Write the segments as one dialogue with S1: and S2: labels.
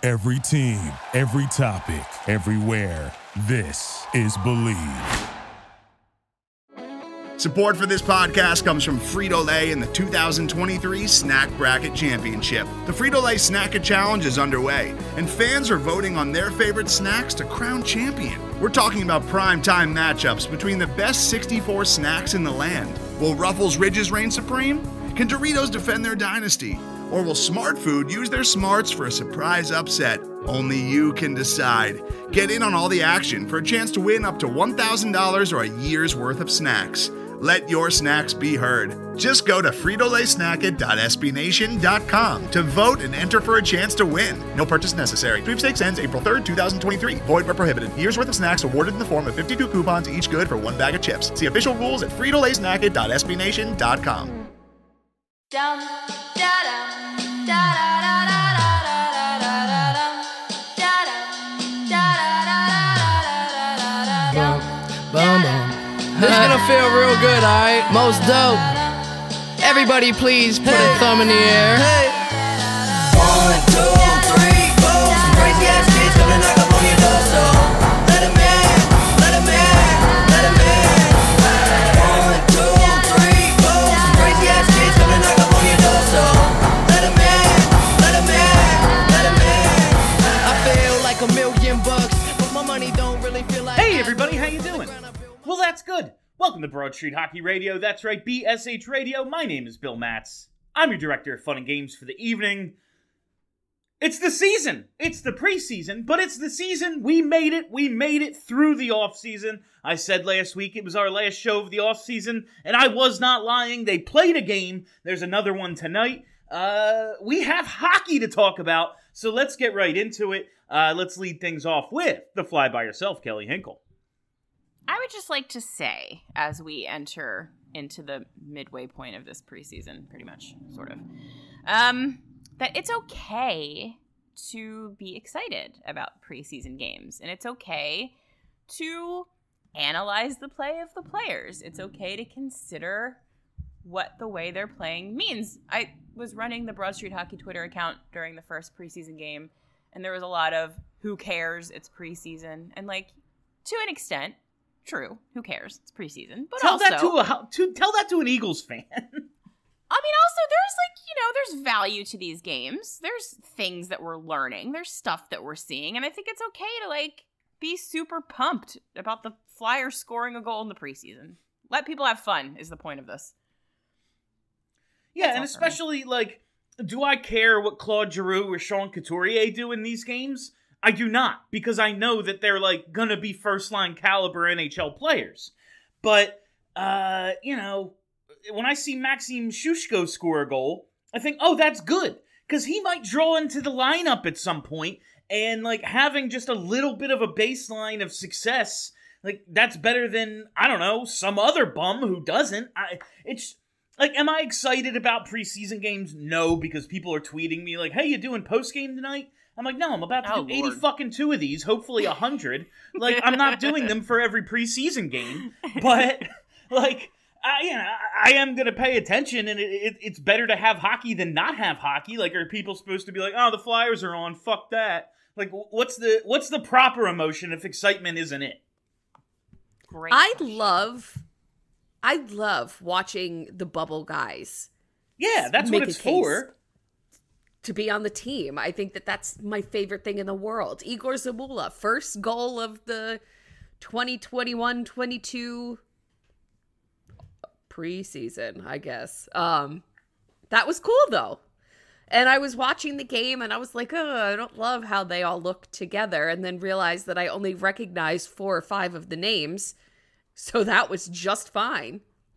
S1: Every team, every topic, everywhere. This is Believe.
S2: Support for this podcast comes from Frito-Lay and the 2023 Snack Bracket Championship. The Frito-Lay Snack It Challenge is underway, and fans are voting on their favorite snacks to crown champion. We're talking about prime-time matchups between the best 64 snacks in the land. Will Ruffles Ridges reign supreme? Can Doritos defend their dynasty? Or will Smart Food use their smarts for a surprise upset? Only you can decide. Get in on all the action for a chance to win up to $1,000 or a year's worth of snacks. Let your snacks be heard. Just go to fritolaysnacket.sbnation.com to vote and enter for a chance to win. No purchase necessary. Sweepstakes ends April 3rd, 2023. Void where prohibited. Year's worth of snacks awarded in the form of 52 coupons, each good for one bag of chips. See official rules at fritolaysnacket.sbnation.com.
S3: Dum da dum da da da da da da da da da.
S4: This is gonna feel real good, alright? Most dope. Everybody please put a thumb in the air.
S5: 1, 2, 3, 4. Some crazy ass kids coming knock up on your door, so let 'em in, let 'em in, let 'em in. 1, 2, 3, 4. Some crazy ass kids coming knock up on your door, so let 'em in, let 'em in, let 'em in.
S4: I feel like $1,000,000, but my money don't really feel like.
S6: Hey everybody, how you doing? Well, that's good. Welcome to Broad Street Hockey Radio. That's right, BSH Radio. My name is Bill Matz. I'm your director of fun and games for the evening. It's the season. It's the preseason, but it's the season. We made it. We made it through the offseason. I said last week it was our last show of the offseason, and I was not lying. They played a game. There's another one tonight. We have hockey to talk about, so let's get right into it. Let's lead things off with the fly by yourself, Kelly Hinkle.
S7: I would just like to say, as we enter into the midway point of this preseason, pretty much, sort of, that it's okay to be excited about preseason games. And it's okay to analyze the play of the players. It's okay to consider what the way they're playing means. I was running the Broad Street Hockey Twitter account during the first preseason game, and there was a lot of, who cares, it's preseason. And, like, to an extent, true. Who cares? It's preseason. But
S6: tell
S7: also,
S6: that to an Eagles fan.
S7: I mean, also, there's there's value to these games. There's things that we're learning. There's stuff that we're seeing, and I think it's okay to be super pumped about the Flyers scoring a goal in the preseason. Let people have fun is the point of this.
S6: Yeah, and especially do I care what Claude Giroux or Sean Couturier do in these games? I do not, because I know that they're, gonna be first-line caliber NHL players. But, when I see Maxim Shushko score a goal, I think, oh, that's good, because he might draw into the lineup at some point, and, having just a little bit of a baseline of success, that's better than, I don't know, some other bum who doesn't. Am I excited about preseason games? No, because people are tweeting me, hey, you doing postgame tonight? I'm like, no, I'm about to do 80 fucking 2 of these, hopefully 100. I'm not doing them for every preseason game, but, I am going to pay attention, and it's better to have hockey than not have hockey. Are people supposed to be oh, the Flyers are on, fuck that. What's the proper emotion if excitement isn't it?
S7: Great.
S8: I love watching the bubble guys.
S6: Yeah, that's what it's for.
S8: To be on the team. I think that's my favorite thing in the world. Igor Zamula, first goal of the 2021-22 preseason, I guess. That was cool, though. And I was watching the game, and I was like, oh, I don't love how they all look together, and then realized that I only recognized 4 or 5 of the names, so that was just fine.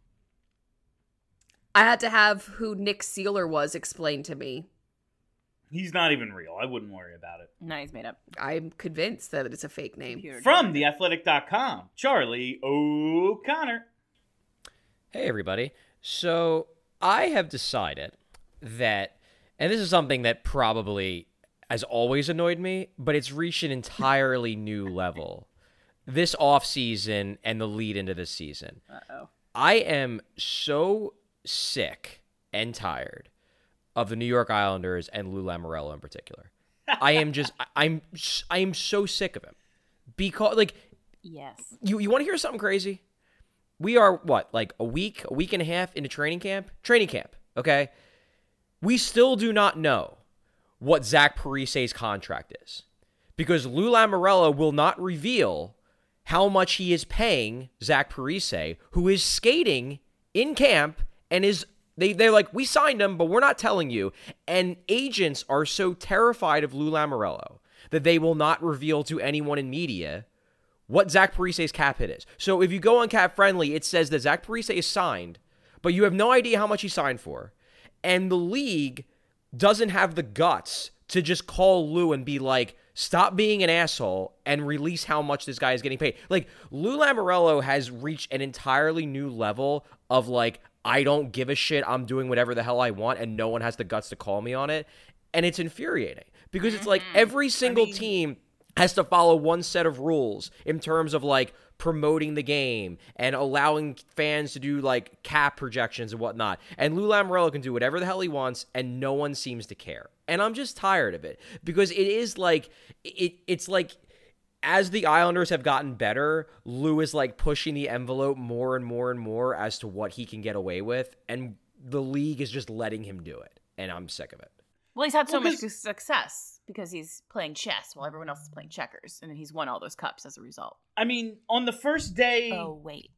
S8: I had to have who Nick Seeler was explained to me.
S6: He's not even real. I wouldn't worry about it.
S7: No, he's made up.
S8: I'm convinced that it's a fake name.
S6: From theathletic.com, Charlie O'Connor.
S9: Hey, everybody. So I have decided that, and this is something that probably has always annoyed me, but it's reached an entirely new level this offseason and the lead into this season.
S7: Uh-oh.
S9: I am so sick and tired of the New York Islanders and Lou Lamoriello in particular. I am so sick of him. Because, like,
S7: Yes.
S9: you want to hear something crazy? We are, what, like a week and a half into training camp? Training camp, okay? We still do not know what Zach Parise's contract is. Because Lou Lamoriello will not reveal how much he is paying Zach Parise, who is skating in camp and is... They're like, we signed him, but we're not telling you. And agents are so terrified of Lou Lamoriello that they will not reveal to anyone in media what Zach Parise's cap hit is. So if you go on Cap Friendly, it says that Zach Parise is signed, but you have no idea how much he signed for. And the league doesn't have the guts to just call Lou and be like, stop being an asshole and release how much this guy is getting paid. Like, Lou Lamoriello has reached an entirely new level of, like, I don't give a shit, I'm doing whatever the hell I want, and no one has the guts to call me on it. And it's infuriating because it's like every single team has to follow one set of rules in terms of, like, promoting the game and allowing fans to do, like, cap projections and whatnot. And Lou Lamoriello can do whatever the hell he wants, and no one seems to care. And I'm just tired of it because it is like, it's like, as the Islanders have gotten better, Lou is, like, pushing the envelope more and more and more as to what he can get away with, and the league is just letting him do it, and I'm sick of it.
S7: Well, he's had so much success because he's playing chess while everyone else is playing checkers, and then he's won all those cups as a result.
S6: I mean, on the first day...
S7: Oh, wait.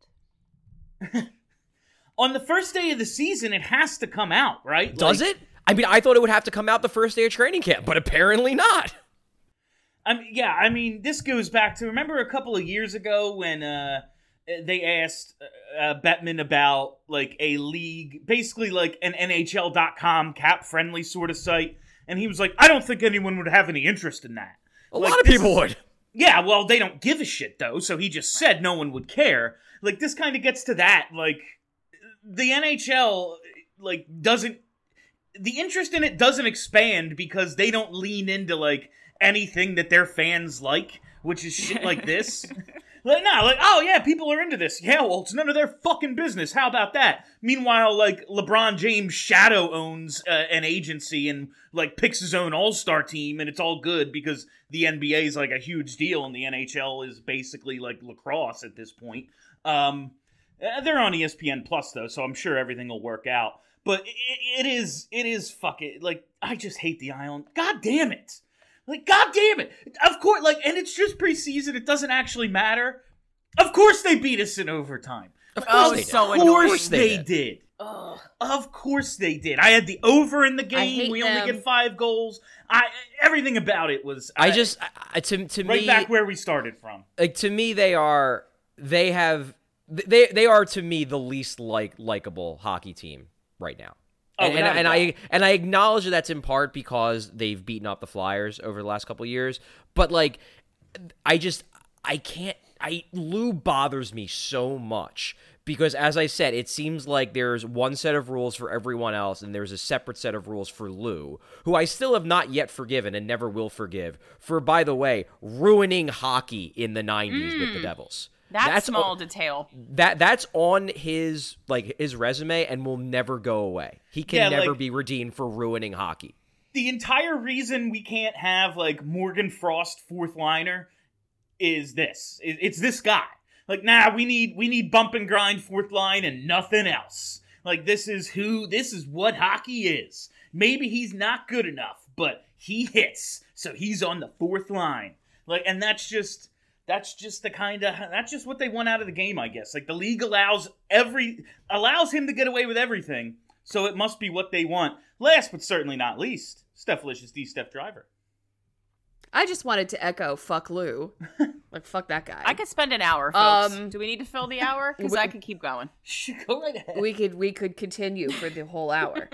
S6: On the first day of the season, it has to come out, right?
S9: Does it? I mean, I thought it would have to come out the first day of training camp, but apparently not.
S6: I mean, this goes back to, remember a couple of years ago when they asked Bettman about, like, a league, basically like an NHL.com cap-friendly sort of site, and he was like, I don't think anyone would have any interest in that.
S9: A lot of people would.
S6: Yeah, well, they don't give a shit, though, so he just said no one would care. Like, this kind of gets to that, like, the NHL, like, doesn't... The interest in it doesn't expand because they don't lean into, like, anything that their fans like, which is shit like this. Oh yeah, people are into this. Yeah, well, it's none of their fucking business. How about that? Meanwhile, like, LeBron James shadow owns an agency and, like, picks his own all-star team, and it's all good because the NBA is, like, a huge deal, and the NHL is basically, like, lacrosse at this point. They're on ESPN Plus, though, so I'm sure everything will work out. But it is fucking, like, I just hate the Island. God damn it. Like, God damn it. Of course, like, and it's just preseason. It doesn't actually matter. Of course they beat us in overtime.
S9: Of course
S6: they did. Of course they did. I had the over in the game. We only get 5 goals. Everything about it was... to
S9: me...
S6: Right back where we started from.
S9: Like, to me, they are, to me, the least likable hockey team right now. And I acknowledge that that's in part because they've beaten up the Flyers over the last couple of years, but, like, Lou bothers me so much because, as I said, it seems like there's one set of rules for everyone else and there's a separate set of rules for Lou, who I still have not yet forgiven and never will forgive for, by the way, ruining hockey in the 90s with the Devils.
S7: That's small detail.
S9: That's on his resume and will never go away. He can never be redeemed for ruining hockey.
S6: The entire reason we can't have, like, Morgan Frost fourth liner is this. It's this guy. Like, nah, we need bump and grind fourth line and nothing else. Like, this is what hockey is. Maybe he's not good enough, but he hits, so he's on the fourth line. Like, and that's just what they want out of the game, I guess. Like, the league allows him to get away with everything, so it must be what they want. Last but certainly not least, Stephlicious D. Steph Driver.
S8: I just wanted to echo fuck Lou. Like, fuck that guy.
S7: I could spend an hour, folks. Do we need to fill the hour? Because I could keep going.
S6: Go right ahead.
S8: We could continue for the whole hour.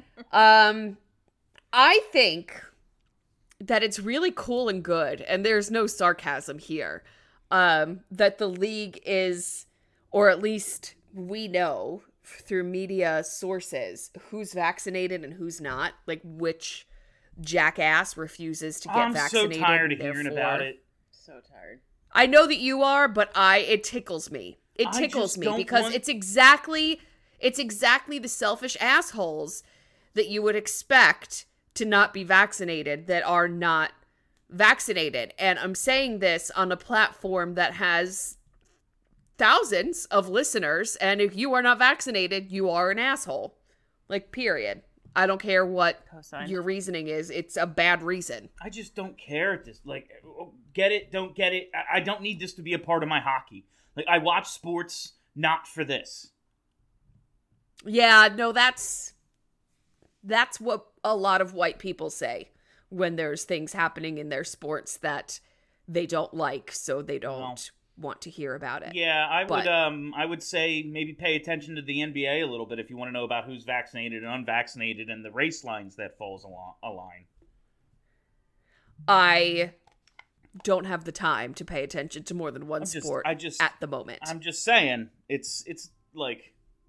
S8: I think that it's really cool and good, and there's no sarcasm here, that the league is, or at least we know through media sources, who's vaccinated and who's not, like which jackass refuses to get vaccinated.
S6: I'm so tired of hearing about it.
S7: So tired.
S8: I know that you are, but it tickles me. It tickles me because it's exactly the selfish assholes that you would expect to not be vaccinated that are not vaccinated. And I'm saying this on a platform that has thousands of listeners, and if you are not vaccinated, you are an asshole. Like, period. I don't care what your reasoning is. It's a bad reason.
S6: I just don't care at this. Like, get it, don't get it. I don't need this to be a part of my hockey. Like, I watch sports not for this.
S8: Yeah, no, that's what a lot of white people say when there's things happening in their sports that they don't like, so they don't want to hear about it.
S6: Yeah, I would say maybe pay attention to the NBA a little bit if you want to know about who's vaccinated and unvaccinated and the race lines that falls a line.
S8: I don't have the time to pay attention to more than one sport at the moment.
S6: I'm just saying, it's like,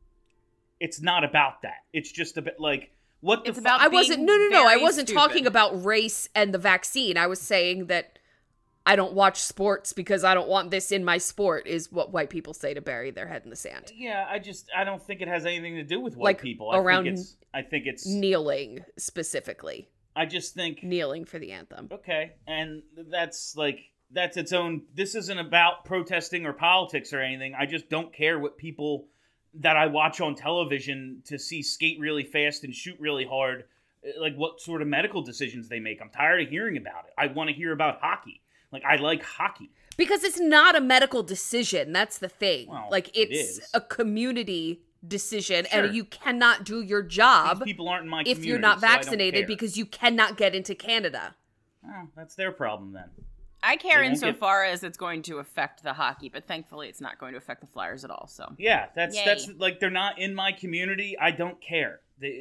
S6: it's not about that. It's just a bit like, what the fuck?
S8: I wasn't talking about race and the vaccine. I was saying that I don't watch sports because I don't want this in my sport, is what white people say to bury their head in the sand.
S6: Yeah, I don't think it has anything to do with white
S8: like
S6: people. I think it's
S8: kneeling specifically.
S6: I just think
S8: kneeling for the anthem.
S6: Okay, and that's its own. This isn't about protesting or politics or anything. I just don't care what people that I watch on television to see skate really fast and shoot really hard, like what sort of medical decisions they make. I'm tired of hearing about it. I want to hear about hockey. Like, I like hockey.
S8: Because it's not a medical decision. That's the thing.
S6: Well,
S8: like, it's a community decision,
S6: Sure.
S8: and you cannot do your job
S6: These people aren't in my
S8: if
S6: community,
S8: you're not
S6: so I don't
S8: vaccinated
S6: care.
S8: because you cannot get into Canada.
S6: Oh, that's their problem then.
S7: I care
S6: They won't
S7: insofar as it's going to affect the hockey, but thankfully it's not going to affect the Flyers at all. So
S6: Yeah, that's
S7: Yay.
S6: like, they're not in my community. I don't care.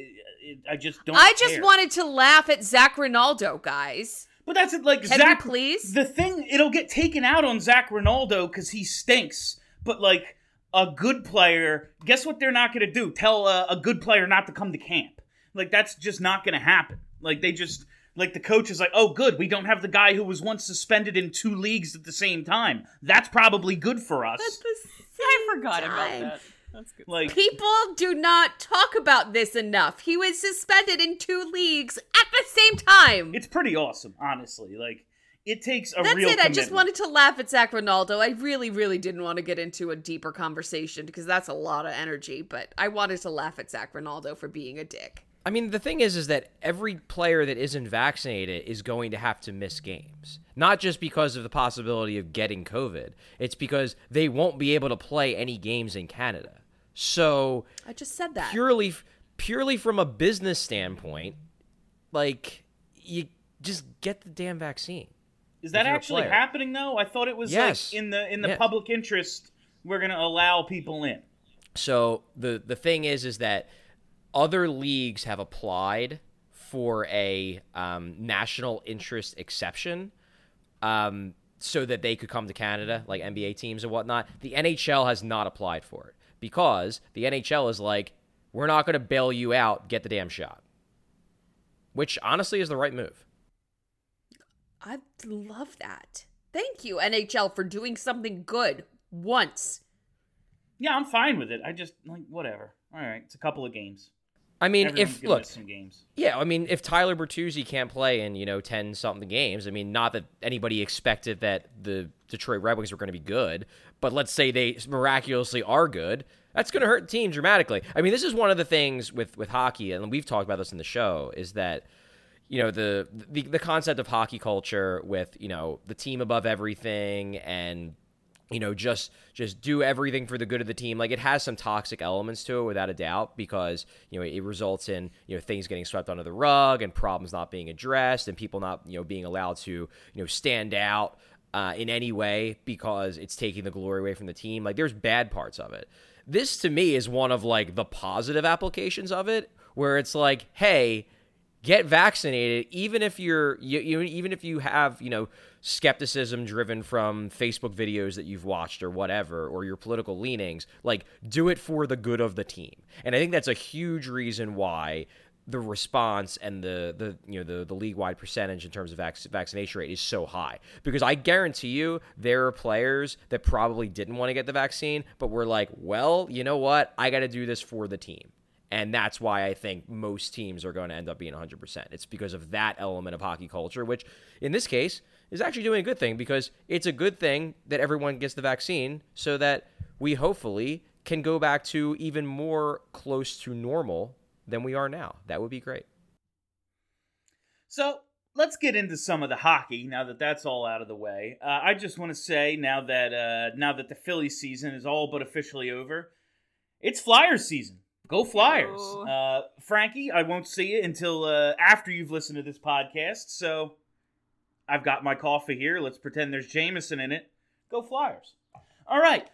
S6: I just don't.
S8: I just
S6: care.
S8: wanted to laugh at Zach Ronaldo, guys.
S6: But that's it, like,
S8: Can
S6: Zach.
S8: we please?
S6: The thing, it'll get taken out on Zach Ronaldo because he stinks. But like a good player, guess what they're not going to do? Tell a good player not to come to camp. Like, that's just not going to happen. Like, they just, like, the coach is like, oh, good, we don't have the guy who was once suspended in 2 leagues at the same time. That's probably good for us.
S7: I forgot about that. That's good.
S6: Like,
S8: People do not talk about this enough. He was suspended in 2 leagues at the same time.
S6: it's pretty awesome, honestly. Like, it takes a
S8: That's
S6: real
S8: it. I
S6: commitment.
S8: just wanted to laugh at Zach Ronaldo. I really, really didn't want to get into a deeper conversation because that's a lot of energy, but I wanted to laugh at Zach Ronaldo for being a dick.
S9: I mean, the thing is that every player that isn't vaccinated is going to have to miss games. Not just because of the possibility of getting COVID. It's because they won't be able to play any games in Canada. So
S8: I just said that.
S9: Purely from a business standpoint, like, you just get the damn vaccine.
S6: Is that
S9: if you're a
S6: actually
S9: player.
S6: happening though? I thought it was
S9: Yes.
S6: like in the
S9: Yes.
S6: public interest. We're going to allow people in.
S9: So the thing is that other leagues have applied for a national interest exception, so that they could come to Canada, like NBA teams and whatnot. The NHL has not applied for it because the NHL is like, we're not going to bail you out. Get the damn shot, which honestly is the right move.
S8: I love that. Thank you, NHL, for doing something good once.
S6: Yeah, I'm fine with it. I just, like, whatever. All right, it's a couple of games.
S9: I mean,
S6: Everyone's
S9: if
S6: gonna
S9: look,
S6: miss some games.
S9: yeah, I mean, if Tyler Bertuzzi can't play in 10-something games, I mean, not that anybody expected that the Detroit Red Wings were going to be good, but let's say they miraculously are good, that's going to hurt the team dramatically. I mean, this is one of the things with hockey, and we've talked about this in the show, is that the concept of hockey culture with the team above everything and just do everything for the good of the team. Like, it has some toxic elements to it without a doubt, because it results in things getting swept under the rug and problems not being addressed and people not being allowed to stand out in any way because it's taking the glory away from the team. Like, there's bad parts of it. This to me is one of like the positive applications of it, where it's like, hey, get vaccinated, even if even if you have skepticism driven from Facebook videos that you've watched or whatever, or your political leanings. Like, do it for the good of the team. And I think that's a huge reason why the response and the league-wide percentage in terms of vaccination rate is so high. Because I guarantee you there are players that probably didn't want to get the vaccine, but were like, well, you know what? I got to do this for the team. And that's why I think most teams are going to end up being 100%. It's because of that element of hockey culture, which in this case is actually doing a good thing, because it's a good thing that everyone gets the vaccine so that we hopefully can go back to even more close to normal than we are now. That would be great.
S6: So let's get into some of the hockey now that that's all out of the way. I just want to say now that the Philly season is all but officially over, it's Flyers season. Go Flyers. Frankie, I won't see you until after you've listened to this podcast, so I've got my coffee here. Let's pretend there's Jameson in it. Go Flyers. All right.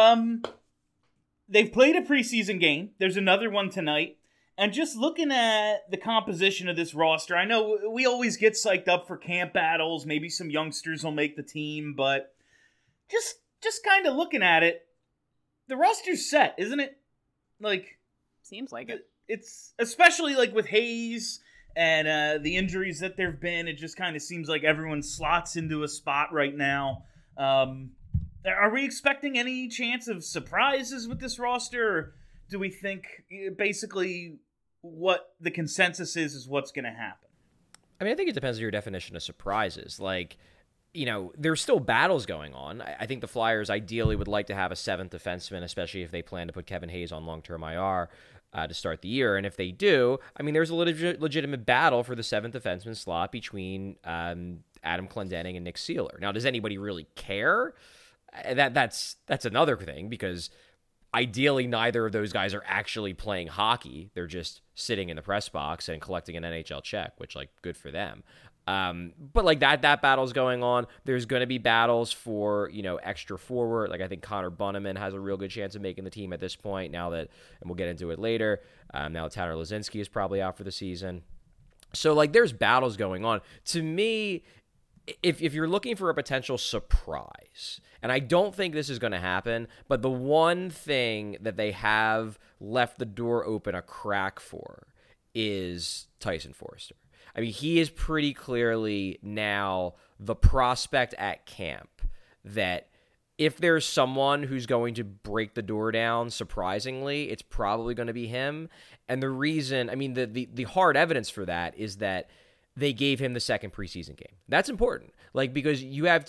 S6: They've played a preseason game. There's another one tonight. And just looking at the composition of this roster, I know we always get psyched up for camp battles. Maybe some youngsters will make the team, but just kind of looking at it, the roster's set, isn't it? Like,
S7: seems like it.
S6: It's especially like with Hayes and the injuries that there've been. It just kind of seems like everyone slots into a spot right now. Are we expecting any chance of surprises with this roster, or do we think basically what the consensus is what's going to happen?
S9: I mean, I think it depends on your definition of surprises. Like, you know, there's still battles going on. I think the Flyers ideally would like to have a seventh defenseman, especially if they plan to put Kevin Hayes on long-term IR to start the year. And if they do, I mean, there's a legitimate battle for the seventh defenseman slot between Adam Clendening and Nick Seeler. Now, does anybody really care? That's another thing, because ideally neither of those guys are actually playing hockey. They're just sitting in the press box and collecting an NHL check, which, like, good for them. But like that battle's going on. There's going to be battles for, you know, extra forward. Like, I think Connor Bunnaman has a real good chance of making the team at this point now that, and we'll get into it later, now that Tanner Lazinski is probably out for the season. So, like, there's battles going on. To me, if you're looking for a potential surprise, and I don't think this is going to happen, but the one thing that they have left the door open a crack for is Tyson Foerster. I mean, he is pretty clearly now the prospect at camp that if there's someone who's going to break the door down, surprisingly, it's probably going to be him. And the reason, I mean, the hard evidence for that is that they gave him the second preseason game. That's important. Like, because you have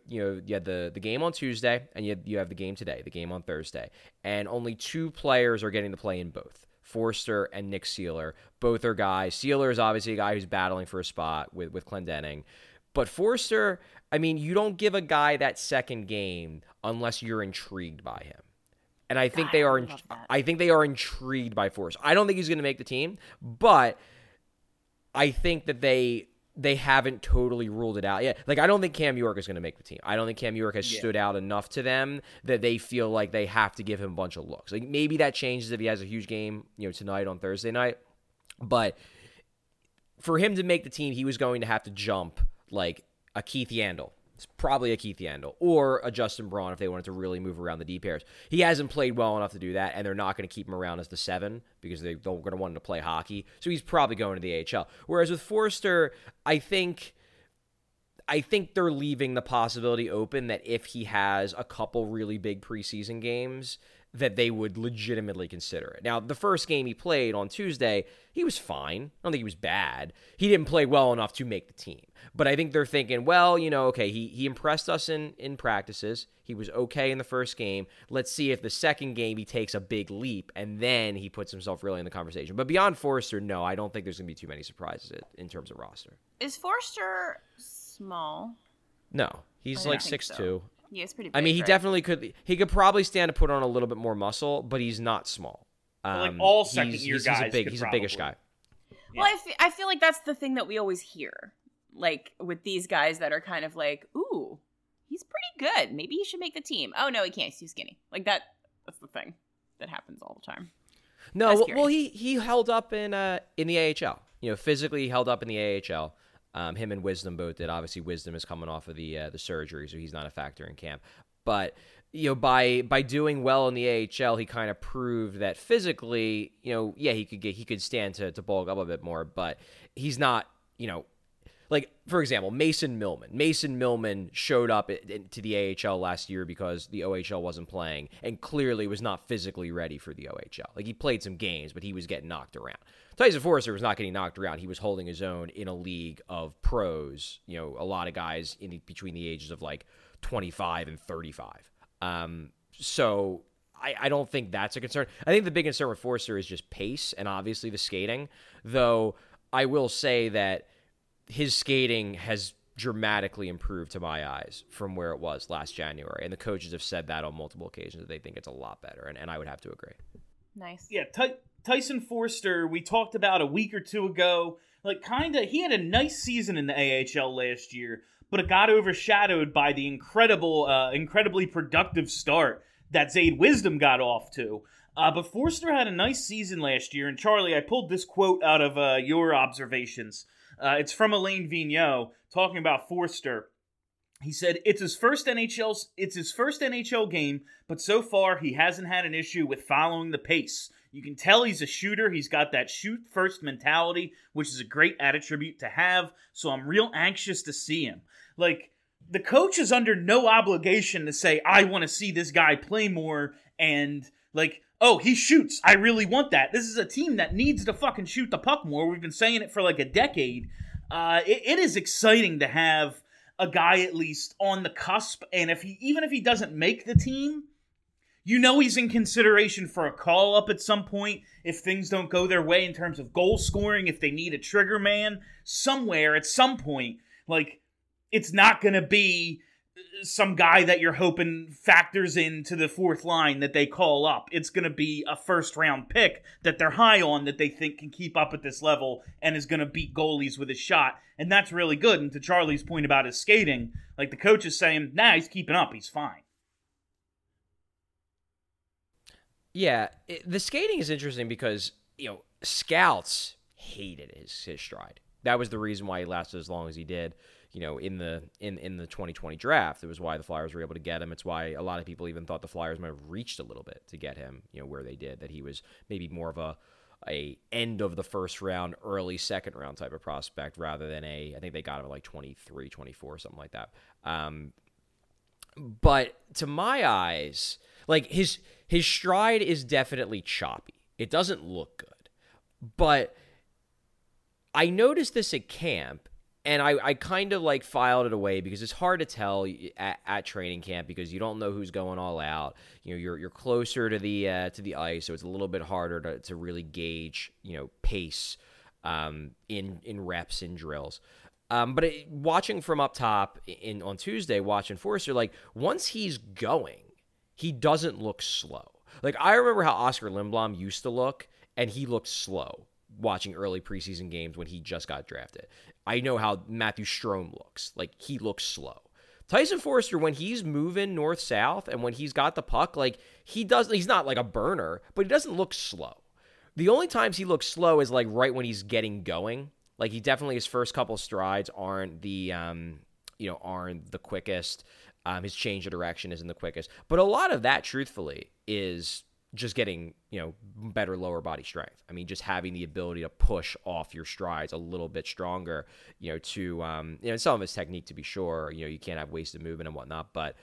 S9: the game on Tuesday and you have the game today, the game on Thursday, and only two players are getting to play in both. Foerster and Nick Seeler. Both are guys. Seeler is obviously a guy who's battling for a spot with Clendening. But Foerster, I mean, you don't give a guy that second game unless you're intrigued by him. And I think they are intrigued by Foerster. I don't think he's going to make the team, but I think that they haven't totally ruled it out yet. Like, I don't think Cam York is going to make the team. I don't think Cam York has stood out enough to them that they feel like they have to give him a bunch of looks. Like, maybe that changes if he has a huge game, you know, tonight on Thursday night. But for him to make the team, he was going to have to jump like a Keith Yandel. It's probably a Keith Yandel or a Justin Braun if they wanted to really move around the D pairs. He hasn't played well enough to do that, and they're not going to keep him around as the 7 because they're going to want him to play hockey. So he's probably going to the AHL. Whereas with Foerster, I think they're leaving the possibility open that if he has a couple really big preseason games, that they would legitimately consider it. Now, the first game he played on Tuesday, he was fine. I don't think he was bad. He didn't play well enough to make the team. But I think they're thinking, well, you know, okay, he impressed us in practices. He was okay in the first game. Let's see if the second game he takes a big leap, and then he puts himself really in the conversation. But beyond Foerster, no, I don't think there's going to be too many surprises in terms of roster.
S7: Is Foerster small?
S9: No, he's like 6'2". So.
S7: Yeah, it's pretty big,
S9: I mean, he
S7: right?
S9: definitely could. He could probably stand to put on a little bit more muscle, but he's not small.
S6: Like all second-year guys,
S9: he's a biggish guy.
S7: Yeah. Well, I feel like that's the thing that we always hear, like with these guys that are kind of like, "Ooh, he's pretty good. Maybe he should make the team." Oh no, he can't. He's too skinny. Like that. That's the thing that happens all the time.
S9: No, well, he held up in the AHL. You know, physically he held up in the AHL. Him and Wisdom both did. Obviously, Wisdom is coming off of the surgery, so he's not a factor in camp. But you know, by doing well in the AHL, he kind of proved that physically, you know, yeah, he could stand to bulk up a bit more, but he's not, you know, like, for example, Mason Millman. Mason Millman showed up to the AHL last year because the OHL wasn't playing and clearly was not physically ready for the OHL. Like, he played some games, but he was getting knocked around. Tyson Forster was not getting knocked around. He was holding his own in a league of pros, you know, a lot of guys between the ages of like 25 and 35. So I don't think that's a concern. I think the big concern with Forster is just pace and obviously the skating, though I will say that his skating has dramatically improved to my eyes from where it was last January. And the coaches have said that on multiple occasions, that they think it's a lot better. And I would have to agree.
S7: Nice.
S6: Yeah, Tyson Forster, we talked about a week or two ago. Like, he had a nice season in the AHL last year, but it got overshadowed by the incredibly productive start that Zayd Wisdom got off to. But Forster had a nice season last year. And Charlie, I pulled this quote out of your observations. It's from Alain Vigneault talking about Forster. He said, it's his first NHL game, but so far he hasn't had an issue with following the pace. You can tell he's a shooter. He's got that shoot-first mentality, which is a great attribute to have, so I'm real anxious to see him. Like, the coach is under no obligation to say, I want to see this guy play more, and, like, oh, he shoots. I really want that. This is a team that needs to fucking shoot the puck more. We've been saying it for like a decade. It is exciting to have a guy at least on the cusp, and even if he doesn't make the team, you know he's in consideration for a call-up at some point if things don't go their way in terms of goal scoring, if they need a trigger man somewhere at some point. Like, it's not going to be some guy that you're hoping factors into the fourth line that they call up. It's going to be a first-round pick that they're high on that they think can keep up at this level and is going to beat goalies with his shot. And that's really good. And to Charlie's point about his skating, like, the coach is saying, nah, he's keeping up. He's fine.
S9: Yeah, the skating is interesting because, you know, scouts hated his stride. That was the reason why he lasted as long as he did. You know, in the 2020 draft, it was why the Flyers were able to get him. It's why a lot of people even thought the Flyers might have reached a little bit to get him, you know, where they did, that he was maybe more of a end of the first round, early second round type of prospect rather than I think they got him at like 23, 24, something like that. But to my eyes, like his stride is definitely choppy. It doesn't look good. But I noticed this at camp, and I kind of like filed it away because it's hard to tell at training camp because you don't know who's going all out. You know, you're closer to the ice, so it's a little bit harder to really gauge, you know, pace in reps and drills. But watching from up top on Tuesday, watching Forster, like once he's going, he doesn't look slow. Like I remember how Oscar Lindblom used to look, and he looked slow watching early preseason games when he just got drafted. I know how Matthew Strome looks. Like, he looks slow. Tyson Forster, when he's moving north-south and when he's got the puck, like, he's not like a burner, but he doesn't look slow. The only times he looks slow is, like, right when he's getting going. Like, he definitely, his first couple strides aren't the quickest. His change of direction isn't the quickest. But a lot of that, truthfully, is just getting, you know, better lower body strength. I mean, just having the ability to push off your strides a little bit stronger, you know, to, you know, some of his technique to be sure, you know, you can't have wasted movement and whatnot. But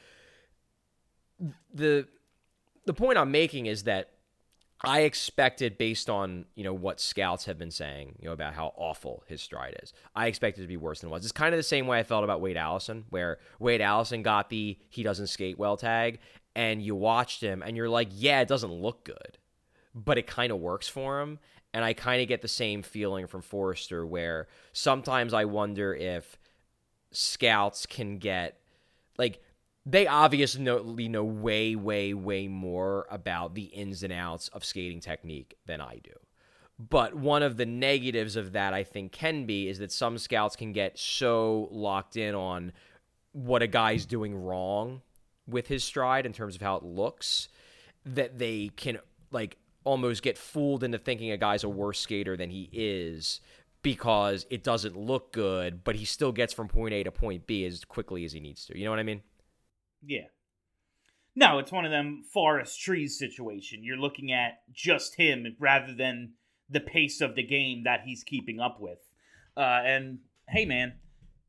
S9: the point I'm making is that I expected, based on, you know, what scouts have been saying, you know, about how awful his stride is, I expected it to be worse than it was. It's kind of the same way I felt about Wade Allison, where Wade Allison got the he doesn't skate well tag, and you watched him, and you're like, yeah, it doesn't look good, but it kind of works for him. And I kind of get the same feeling from Forster, where sometimes I wonder if scouts can get, like, they obviously know way, way, way more about the ins and outs of skating technique than I do. But one of the negatives of that, I think, can be is that some scouts can get so locked in on what a guy's doing wrong with his stride in terms of how it looks that they can, like, almost get fooled into thinking a guy's a worse skater than he is because it doesn't look good, but he still gets from point A to point B as quickly as he needs to. You know what I mean?
S6: Yeah. No, it's one of them forest trees situation. You're looking at just him rather than the pace of the game that he's keeping up with. And hey, man,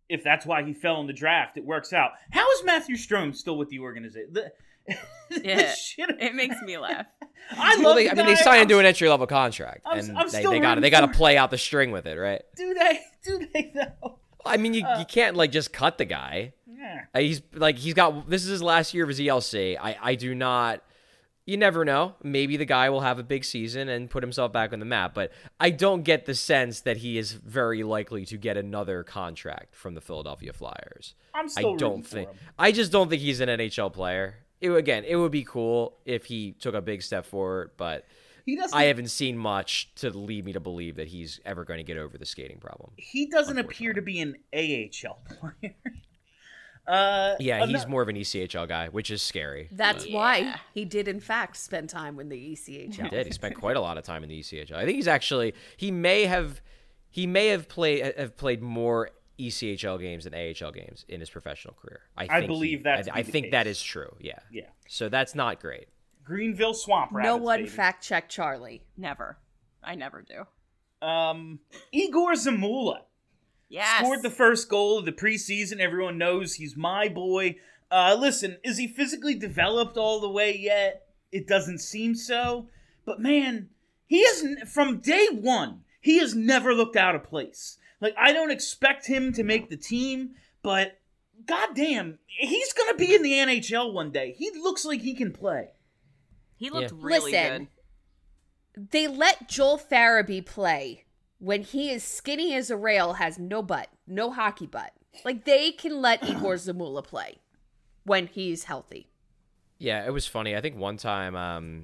S6: if that's why he fell in the draft, it works out. How is Matthew Strome still with the organization?
S7: Yeah, it makes me laugh.
S6: I love.
S9: I mean, they signed into an entry level contract,
S6: I'm
S9: and
S6: still
S9: they got to play out the string with it, right?
S6: Do they? Do they though?
S9: I mean, you can't like just cut the guy.
S6: Yeah.
S9: He's got, this is his last year of his ELC. I do not. You never know. Maybe the guy will have a big season and put himself back on the map, but I don't get the sense that he is very likely to get another contract from the Philadelphia Flyers.
S6: I'm still rooting for him.
S9: I just don't think he's an NHL player. It would be cool if he took a big step forward, but I haven't seen much to lead me to believe that he's ever going to get over the skating problem.
S6: He doesn't appear to be an AHL player.
S9: He's more of an ECHL guy, which is scary.
S8: That's why he did, in fact, spend time in the ECHL.
S9: He did. He spent quite a lot of time in the ECHL. I think he may have played more ECHL games than AHL games in his professional career. I believe that is true. Yeah.
S6: Yeah.
S9: So that's not great.
S6: Greenville Swamp Rabbits.
S8: No one
S6: baby.
S8: fact check Charlie.
S7: Never. I never do.
S6: Igor Zamula.
S7: Yes.
S6: Scored the first goal of the preseason. Everyone knows he's my boy. Listen, is he physically developed all the way yet? It doesn't seem so. But man, he hasn't, from day one, he has never looked out of place. Like, I don't expect him to make the team, but goddamn, he's going to be in the NHL one day. He looks like he can play.
S7: He looked really good.
S8: They let Joel Farabee play when he is skinny as a rail, has no butt, no hockey butt. Like, they can let Igor Zamula play when he's healthy.
S9: Yeah, it was funny. I think one time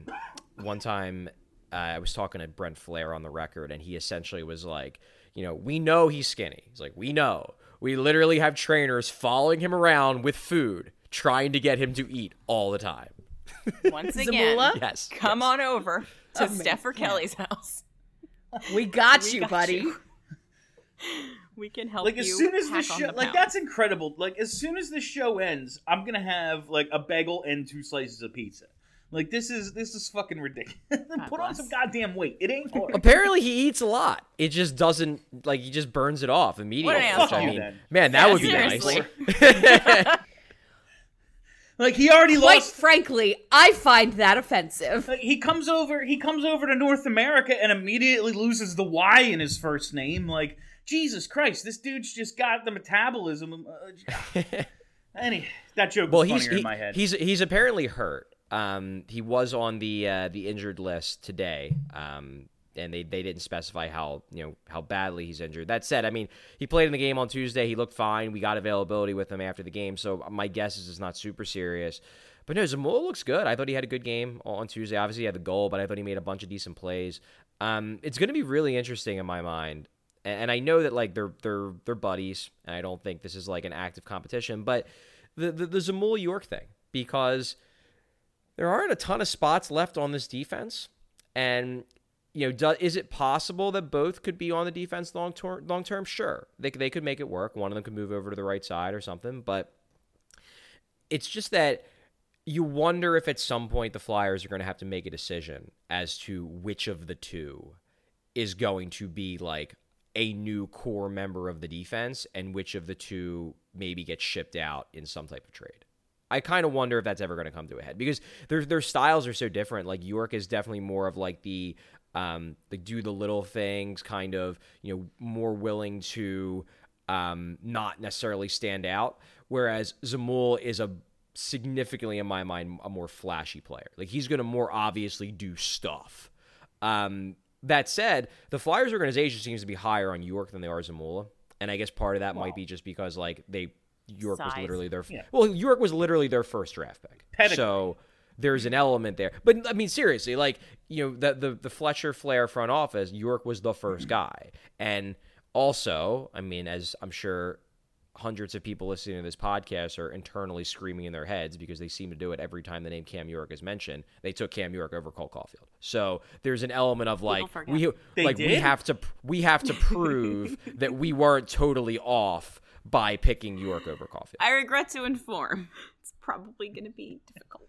S9: I was talking to Brent Flair on the record, and he essentially was like, we know he's skinny. He's like, we know. We literally have trainers following him around with food, trying to get him to eat all the time.
S7: Once again,
S9: yes,
S7: come on over to Steph or Kelly's house.
S8: We got you, buddy.
S7: We can help
S6: like,
S7: you.
S6: As soon as the show,
S7: like,
S6: pound. That's incredible. Like, as soon as the show ends, I'm gonna have like a bagel and 2 slices of pizza. Like, this is fucking ridiculous. Put on some goddamn weight. It ain't hard.
S9: Apparently, he eats a lot. It just doesn't, like, he just burns it off immediately.
S7: What an asshole.
S9: Man, that would be
S7: seriously.
S9: nice.
S6: Like, he already
S8: Quite
S6: lost.
S8: frankly, I find that offensive.
S6: Like, he comes over to North America and immediately loses the Y in his first name. Like, Jesus Christ, this dude's just got the metabolism. That joke was funnier in my head.
S9: He's apparently hurt. He was on the injured list today. And they didn't specify how badly he's injured. That said, I mean, he played in the game on Tuesday. He looked fine. We got availability with him after the game, so my guess is it's not super serious. But no, Zamula looks good. I thought he had a good game on Tuesday. Obviously, he had the goal, but I thought he made a bunch of decent plays. It's going to be really interesting in my mind, and I know that like they're buddies, and I don't think this is like an active competition. But the Zamula York thing, because there aren't a ton of spots left on this defense, and is it possible that both could be on the defense long term? Sure. They could make it work. One of them could move over to the right side or something. But it's just that you wonder if at some point the Flyers are going to have to make a decision as to which of the two is going to be like a new core member of the defense and which of the two maybe gets shipped out in some type of trade. I kind of wonder if that's ever going to come to a head because their styles are so different. Like York is definitely more of like the do the little things, kind of, more willing to not necessarily stand out. Whereas Zamula is a significantly, in my mind, a more flashy player. Like he's going to more obviously do stuff. That said, the Flyers organization seems to be higher on York than they are Zamula, and I guess part of that might be just because like York was literally York was literally their first draft pick.
S6: Pedigree.
S9: So there's an element there. But I mean, seriously, like, the Fletcher Flair front office, York was the first guy. And also, I mean, as I'm sure hundreds of people listening to this podcast are internally screaming in their heads because they seem to do it every time the name Cam York is mentioned, they took Cam York over Cole Caulfield. So there's an element of like, we have to prove that we weren't totally off by picking York over Caulfield.
S7: I regret to inform, it's probably going to be difficult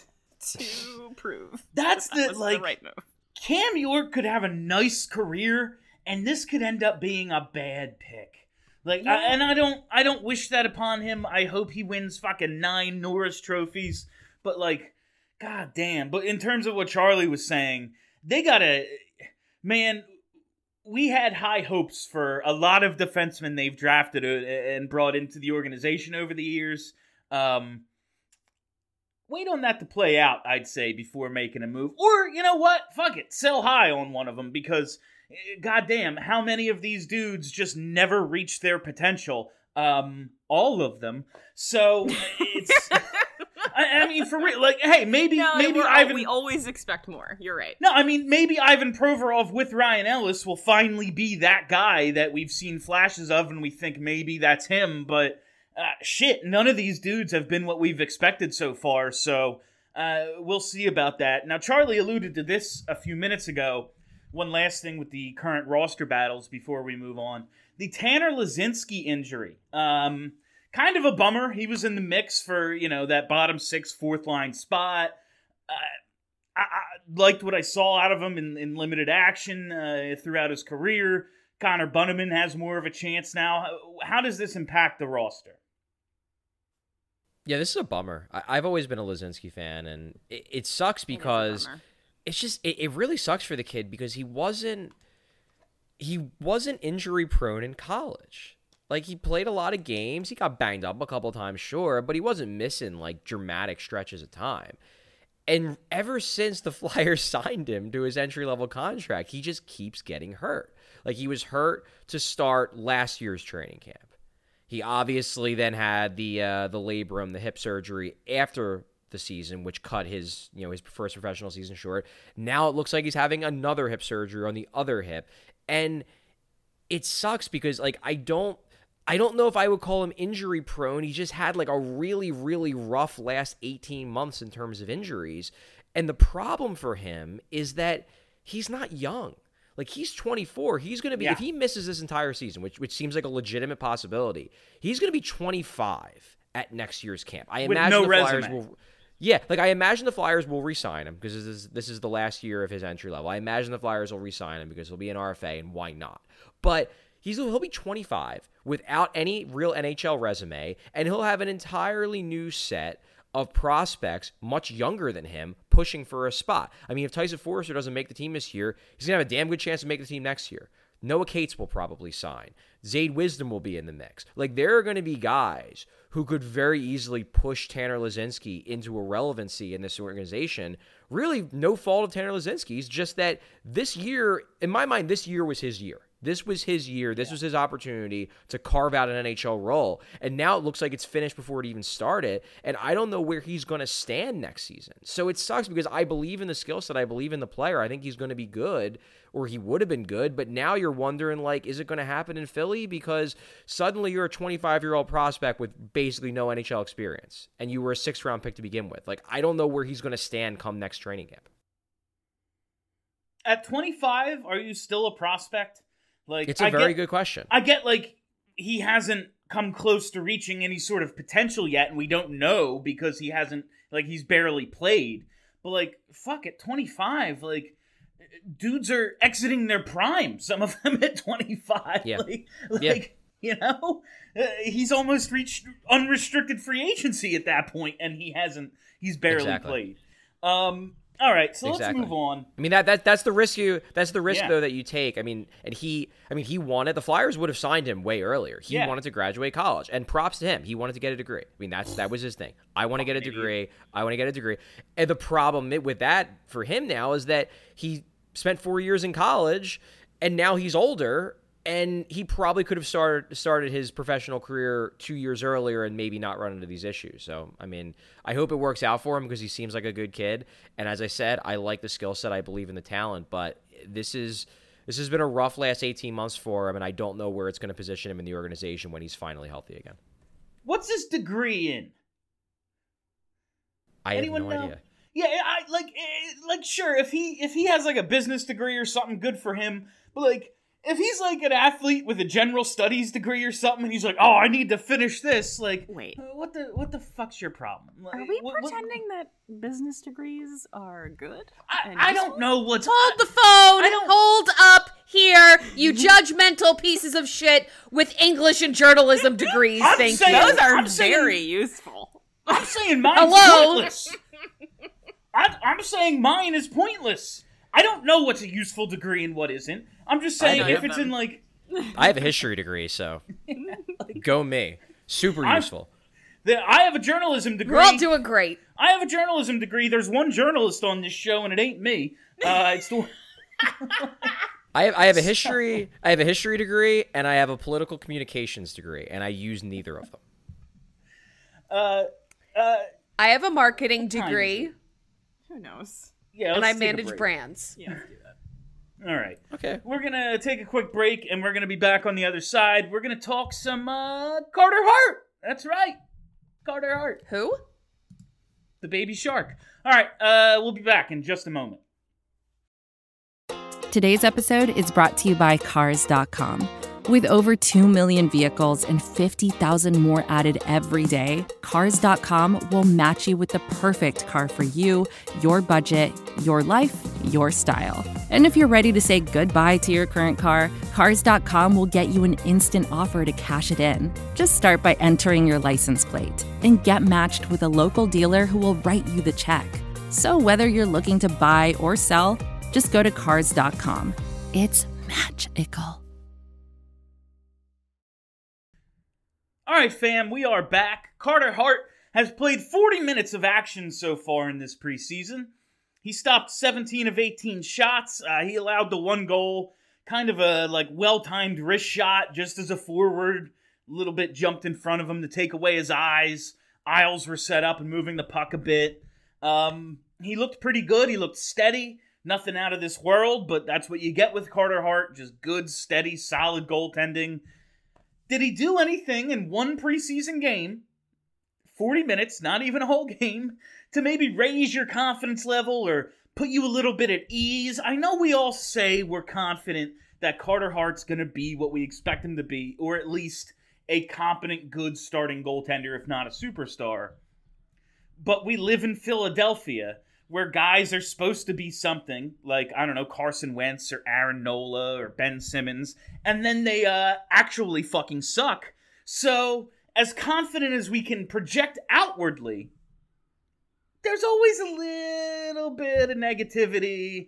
S7: to prove.
S6: That's
S7: the right move.
S6: Cam York could have a nice career, and this could end up being a bad pick. Like, I don't wish that upon him. I hope he wins fucking 9 Norris trophies. But like, god damn. But in terms of what Charlie was saying, they gotta, man. We had high hopes for a lot of defensemen they've drafted and brought into the organization over the years. Wait on that to play out, I'd say, before making a move. Or, you know what? Fuck it. Sell high on one of them because, goddamn, how many of these dudes just never reach their potential? All of them. So, it's... I mean, for real, like, hey, maybe Ivan...
S7: We always expect more. You're right.
S6: No, I mean, maybe Ivan Provorov with Ryan Ellis will finally be that guy that we've seen flashes of and we think maybe that's him, but shit, none of these dudes have been what we've expected so far, so we'll see about that. Now, Charlie alluded to this a few minutes ago. One last thing with the current roster battles before we move on. The Tanner Laczynski injury. Kind of a bummer. He was in the mix for, that bottom 6, 4th line spot. I liked what I saw out of him in limited action throughout his career. Connor Bunnaman has more of a chance now. How does this impact the roster?
S9: Yeah, this is a bummer. I've always been a Laczynski fan, and it sucks because it's just it really sucks for the kid because he wasn't injury prone in college. Like, he played a lot of games. He got banged up a couple times, sure, but he wasn't missing, like, dramatic stretches of time. And ever since the Flyers signed him to his entry-level contract, he just keeps getting hurt. Like, he was hurt to start last year's training camp. He obviously then had the labrum, the hip surgery after the season, which cut his first professional season short. Now it looks like he's having another hip surgery on the other hip. And it sucks because, like, I don't know if I would call him injury prone. He just had like a really, really rough last 18 months in terms of injuries. And the problem for him is that he's not young. Like, he's 24. He's going to be, if he misses this entire season, which seems like a legitimate possibility, he's going to be 25 at next year's camp. I imagine Flyers will. Yeah, like, I imagine the Flyers will re-sign him because this is the last year of his entry level. I imagine the Flyers will re-sign him because he'll be an RFA, and why not? But he'll be 25 without any real NHL resume, and he'll have an entirely new set of prospects much younger than him pushing for a spot. I mean, if Tyson Forrester doesn't make the team this year, he's going to have a damn good chance to make the team next year. Noah Cates will probably sign. Zayd Wisdom will be in the mix. Like, there are going to be guys who could very easily push Tanner Laczynski into irrelevancy in this organization. Really, no fault of Tanner Laczynski's, just that this year, in my mind, this year was his year. This was his year. This was his opportunity to carve out an NHL role. And now it looks like it's finished before it even started. And I don't know where he's going to stand next season. So it sucks because I believe in the skill set. I believe in the player. I think he's going to be good, or he would have been good. But now you're wondering, like, is it going to happen in Philly? Because suddenly you're a 25-year-old prospect with basically no NHL experience. And you were a 6th-round pick to begin with. Like, I don't know where he's going to stand come next training camp.
S6: At 25, are you still a prospect? Like,
S9: it's a very good question.
S6: I get, like, he hasn't come close to reaching any sort of potential yet, and we don't know because he hasn't, like, he's barely played. But, like, fuck, at 25, like, dudes are exiting their prime, some of them at 25.
S9: Yeah.
S6: He's almost reached unrestricted free agency at that point, and he's barely played. All right, so let's move on.
S9: I mean, that's the risk though that you take. I mean, he wanted, the Flyers would have signed him way earlier. He wanted to graduate college, and props to him. He wanted to get a degree. I mean, that was his thing. I want to get a degree. And the problem with that for him now is that he spent 4 years in college, and now he's older, and he probably could have started his professional career 2 years earlier and maybe not run into these issues. So, I mean, I hope it works out for him because he seems like a good kid. And as I said, I like the skill set. I believe in the talent. But this has been a rough last 18 months for him, and I don't know where it's going to position him in the organization when he's finally healthy again.
S6: What's his degree in?
S9: I have no idea.
S6: Yeah, sure, if he has, like, a business degree or something, good for him. But, like, if he's, like, an athlete with a general studies degree or something, and he's like, oh, I need to finish this, like,
S7: wait,
S6: what the fuck's your problem? Like,
S7: are we pretending that business degrees are good?
S6: I don't know what's...
S8: Hold the phone! Hold up! here, you judgmental pieces of shit with English and journalism degrees.
S6: I'm
S8: Thank
S6: saying-
S8: you.
S7: Those are
S6: I'm saying-
S7: very useful.
S6: I'm saying mine's
S8: Hello?
S6: pointless. I'm saying mine is pointless. I don't know what's a useful degree and what isn't. I'm just saying
S9: none
S6: if
S7: of
S6: it's
S7: them.
S6: in like
S9: I have a history degree, so go me. Super useful.
S6: I have a journalism degree.
S8: We're all doing great.
S6: I have a journalism degree. There's one journalist on this show, and it ain't me. It's the
S9: I have a history degree, and I have a political communications degree, and I use neither of them.
S8: I have a marketing degree,
S7: Who knows?
S6: yeah.
S8: and
S6: let's
S8: I
S6: take a
S8: manage
S6: break.
S8: brands.
S7: Yeah, let's do that.
S6: All right.
S9: Okay.
S6: We're gonna take a quick break, and we're gonna be back on the other side. We're gonna talk some Carter Hart. That's right, Carter Hart,
S8: Who?
S6: the baby shark. All right. We'll be back in just a moment.
S10: Today's episode is brought to you by Cars.com. With over 2 million vehicles and 50,000 more added every day, Cars.com will match you with the perfect car for you, your budget, your life, your style. And if you're ready to say goodbye to your current car, Cars.com will get you an instant offer to cash it in. Just start by entering your license plate and get matched with a local dealer who will write you the check. So whether you're looking to buy or sell, just go to Cars.com. It's magical.
S6: All right, fam, we are back. Carter Hart has played 40 minutes of action so far in this preseason. He stopped 17 of 18 shots. He allowed the one goal, kind of a well-timed wrist shot, just as a forward, a little bit jumped in front of him to take away his eyes. Aisles were set up and moving the puck a bit. He looked pretty good. He looked steady. Nothing out of this world, but that's what you get with Carter Hart. Just good, steady, solid goaltending. Did he do anything in one preseason game, 40 minutes, not even a whole game, to maybe raise your confidence level or put you a little bit at ease? I know we all say we're confident that Carter Hart's going to be what we expect him to be, or at least a competent, good starting goaltender, if not a superstar. But we live in Philadelphia, where guys are supposed to be something, like, I don't know, Carson Wentz or Aaron Nola or Ben Simmons, and then they actually fucking suck. So, as confident as we can project outwardly, there's always a little bit of negativity,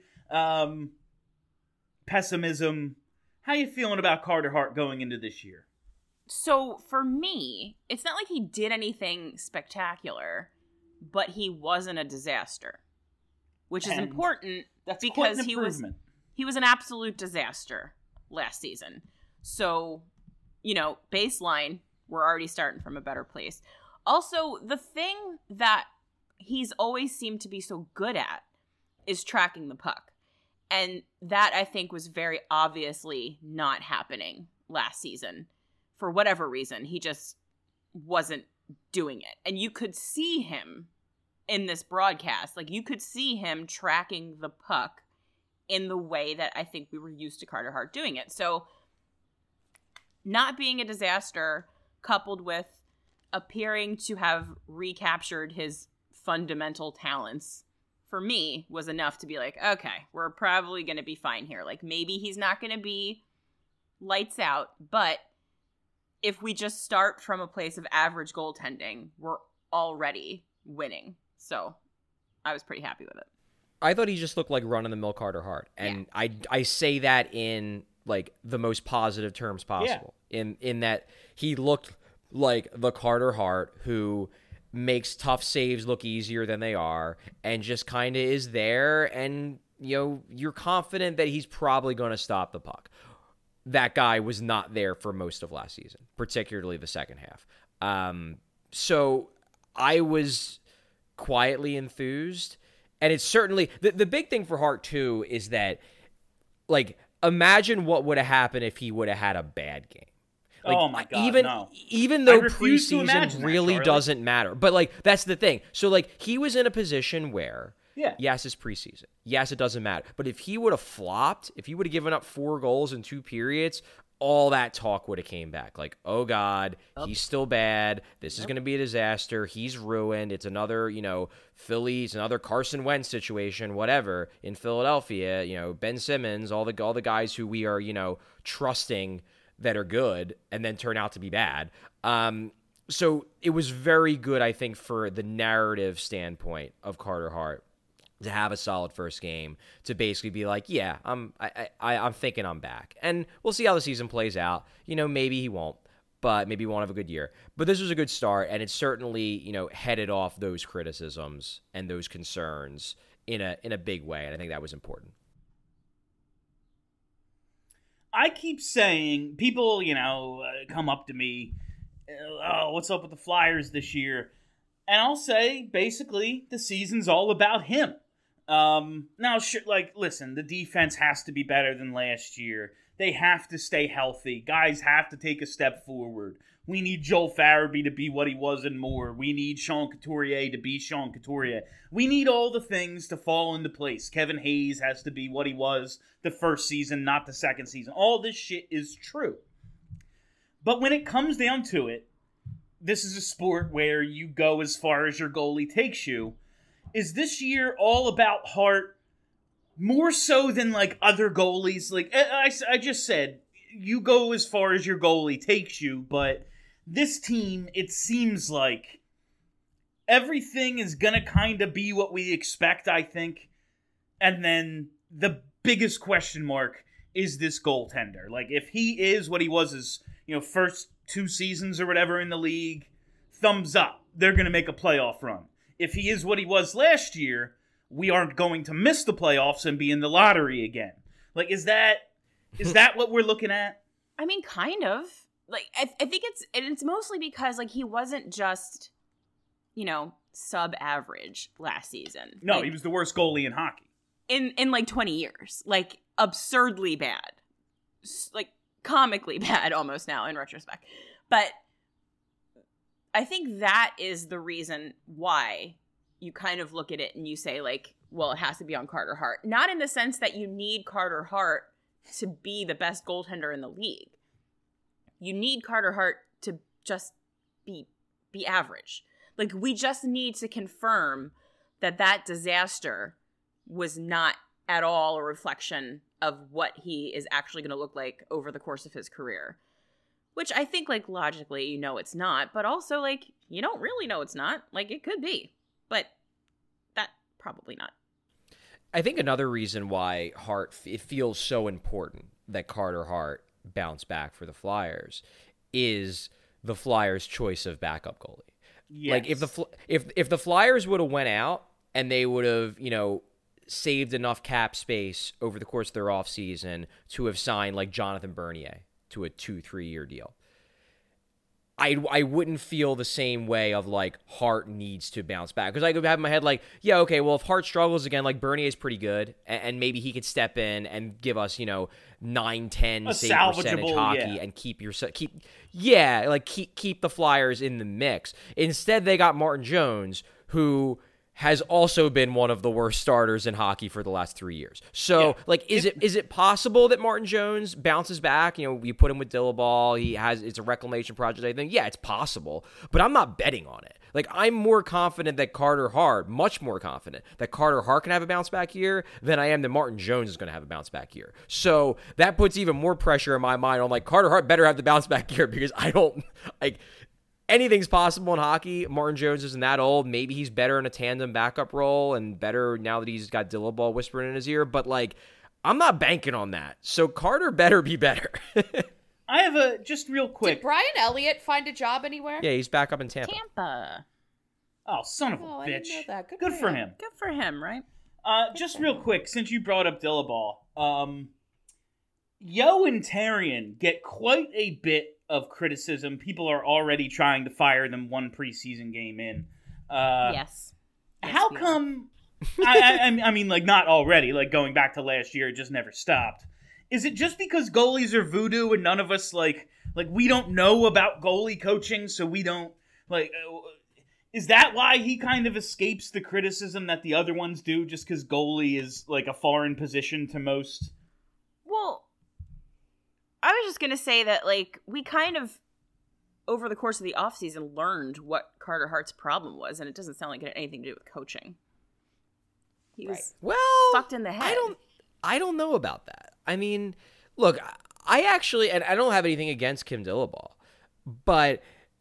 S6: pessimism. How you feeling about Carter Hart going into this year?
S7: So for me, it's not like he did anything spectacular, but he wasn't a disaster, which is
S6: And
S7: important
S6: That's quite
S7: because
S6: an
S7: he was an absolute disaster last season. So, baseline, we're already starting from a better place. Also, the thing that he's always seemed to be so good at is tracking the puck. And that, I think, was very obviously not happening last season. For whatever reason, he just wasn't doing it. And you could see him in this broadcast. Like, you could see him tracking the puck in the way that I think we were used to Carter Hart doing it. So, not being a disaster, coupled with appearing to have recaptured his fundamental talents, for me, was enough to be like, okay, we're probably going to be fine here. Like, maybe he's not going to be lights out, but if we just start from a place of average goaltending, we're already winning. So I was pretty happy with it.
S9: I thought he just looked like run-of-the-mill Carter Hart. And yeah. I say that in, like, the most positive terms possible. Yeah. In that he looked like the Carter Hart who makes tough saves look easier than they are and just kind of is there, and, you're confident that he's probably going to stop the puck. That guy was not there for most of last season, particularly the second half. So I was quietly enthused. And it's certainly the big thing for Hart, too, is that, like, imagine what would have happened if he would have had a bad game. Like,
S6: oh, my God,
S9: even though preseason really doesn't matter. But, like, that's the thing. So, like, he was in a position where, yes, it's preseason. Yes, it doesn't matter. But if he would have flopped, if he would have given up 4 goals in 2 periods, all that talk would have came back. Like, oh God, he's still bad. This is going to be a disaster. He's ruined. It's another, Phillies, another Carson Wentz situation, whatever, in Philadelphia. Ben Simmons, all the guys who we are, trusting that are good and then turn out to be bad. So it was very good, I think, for the narrative standpoint of Carter Hart to have a solid first game, to basically be like, yeah, I'm thinking I'm back. And we'll see how the season plays out. Maybe he won't, but maybe he won't have a good year. But this was a good start, and it certainly, headed off those criticisms and those concerns in a big way, and I think that was important.
S6: I keep saying, people, come up to me, oh, what's up with the Flyers this year? And I'll say, basically, the season's all about him. Now, listen, the defense has to be better than last year. They have to stay healthy. Guys have to take a step forward. We need Joel Farabee to be what he was and more. We need Sean Couturier to be Sean Couturier. We need all the things to fall into place. Kevin Hayes has to be what he was the first season, not the second season. All this shit is true. But when it comes down to it, this is a sport where you go as far as your goalie takes you. Is this year all about Hart more so than like other goalies? Like I just said, you go as far as your goalie takes you, but this team, it seems like everything is going to kind of be what we expect, I think. And then the biggest question mark is this goaltender. Like, if he is what he was his, first 2 seasons or whatever in the league, thumbs up. They're going to make a playoff run. If he is what he was last year, we aren't going to miss the playoffs and be in the lottery again. Like, is that what we're looking at?
S7: I mean, kind of. Like, I think it's mostly because, like, he wasn't just, sub-average last season.
S6: No,
S7: like,
S6: he was the worst goalie in hockey.
S7: In like 20 years. Like, absurdly bad. Like, comically bad almost now in retrospect. But I think that is the reason why you kind of look at it and you say, like, well, it has to be on Carter Hart. Not in the sense that you need Carter Hart to be the best goaltender in the league. You need Carter Hart to just be average. Like, we just need to confirm that disaster was not at all a reflection of what he is actually going to look like over the course of his career. Which I think, like, logically, it's not. But also, like, you don't really know it's not. Like, it could be. But that probably not.
S9: I think another reason why it feels so important that Carter Hart bounce back for the Flyers is the Flyers' choice of backup goalie.
S6: Yes.
S9: Like, if the Flyers would have went out and they would have, saved enough cap space over the course of their offseason to have signed, like, Jonathan Bernier to a 2-3 year deal, I wouldn't feel the same way of, like, Hart needs to bounce back. Because I could have in my head, like, yeah, okay, well, if Hart struggles again, like, Bernier's pretty good, and maybe he could step in and give us, 9-10 save percentage hockey and keep the Flyers in the mix. Instead, they got Martin Jones, who has also been one of the worst starters in hockey for the last 3 years. So, is it possible that Martin Jones bounces back? You put him with Dillabaugh. It's a reclamation project. I think, yeah, it's possible. But I'm not betting on it. Like, I'm more confident that much more confident that Carter Hart can have a bounce back year than I am that Martin Jones is going to have a bounce back year. So that puts even more pressure in my mind on, like, Carter Hart better have the bounce back year, because I don't, like, anything's possible in hockey. Martin Jones isn't that old. Maybe he's better in a tandem backup role and better now that he's got Dillabaugh whispering in his ear. But, like, I'm not banking on that. So Carter better be better.
S6: I have just real quick.
S8: Did Brian Elliott find a job anywhere?
S9: Yeah, he's back up in Tampa.
S6: Oh, son of a
S8: I
S6: bitch.
S8: didn't know that.
S6: Good for him.
S7: Good for him, right?
S6: Just real quick, since you brought up Dillabaugh, Yo and Tarion get quite a bit of criticism. People are already trying to fire them one preseason game in.
S7: Yes.
S6: How come? I mean, like, not already. Like, going back to last year, it just never stopped. Is it just because goalies are voodoo and none of us like we don't know about goalie coaching, so we don't like? Is that why he kind of escapes the criticism that the other ones do? Just because goalie is like a foreign position to most?
S7: Well, I was just gonna say that, like, we kind of, over the course of the offseason, learned what Carter Hart's problem was, and it doesn't sound like it had anything to do with coaching. He was fucked in the head.
S9: I don't know about that. I mean, look, I actually, and I don't have anything against Kim Dillabaugh, but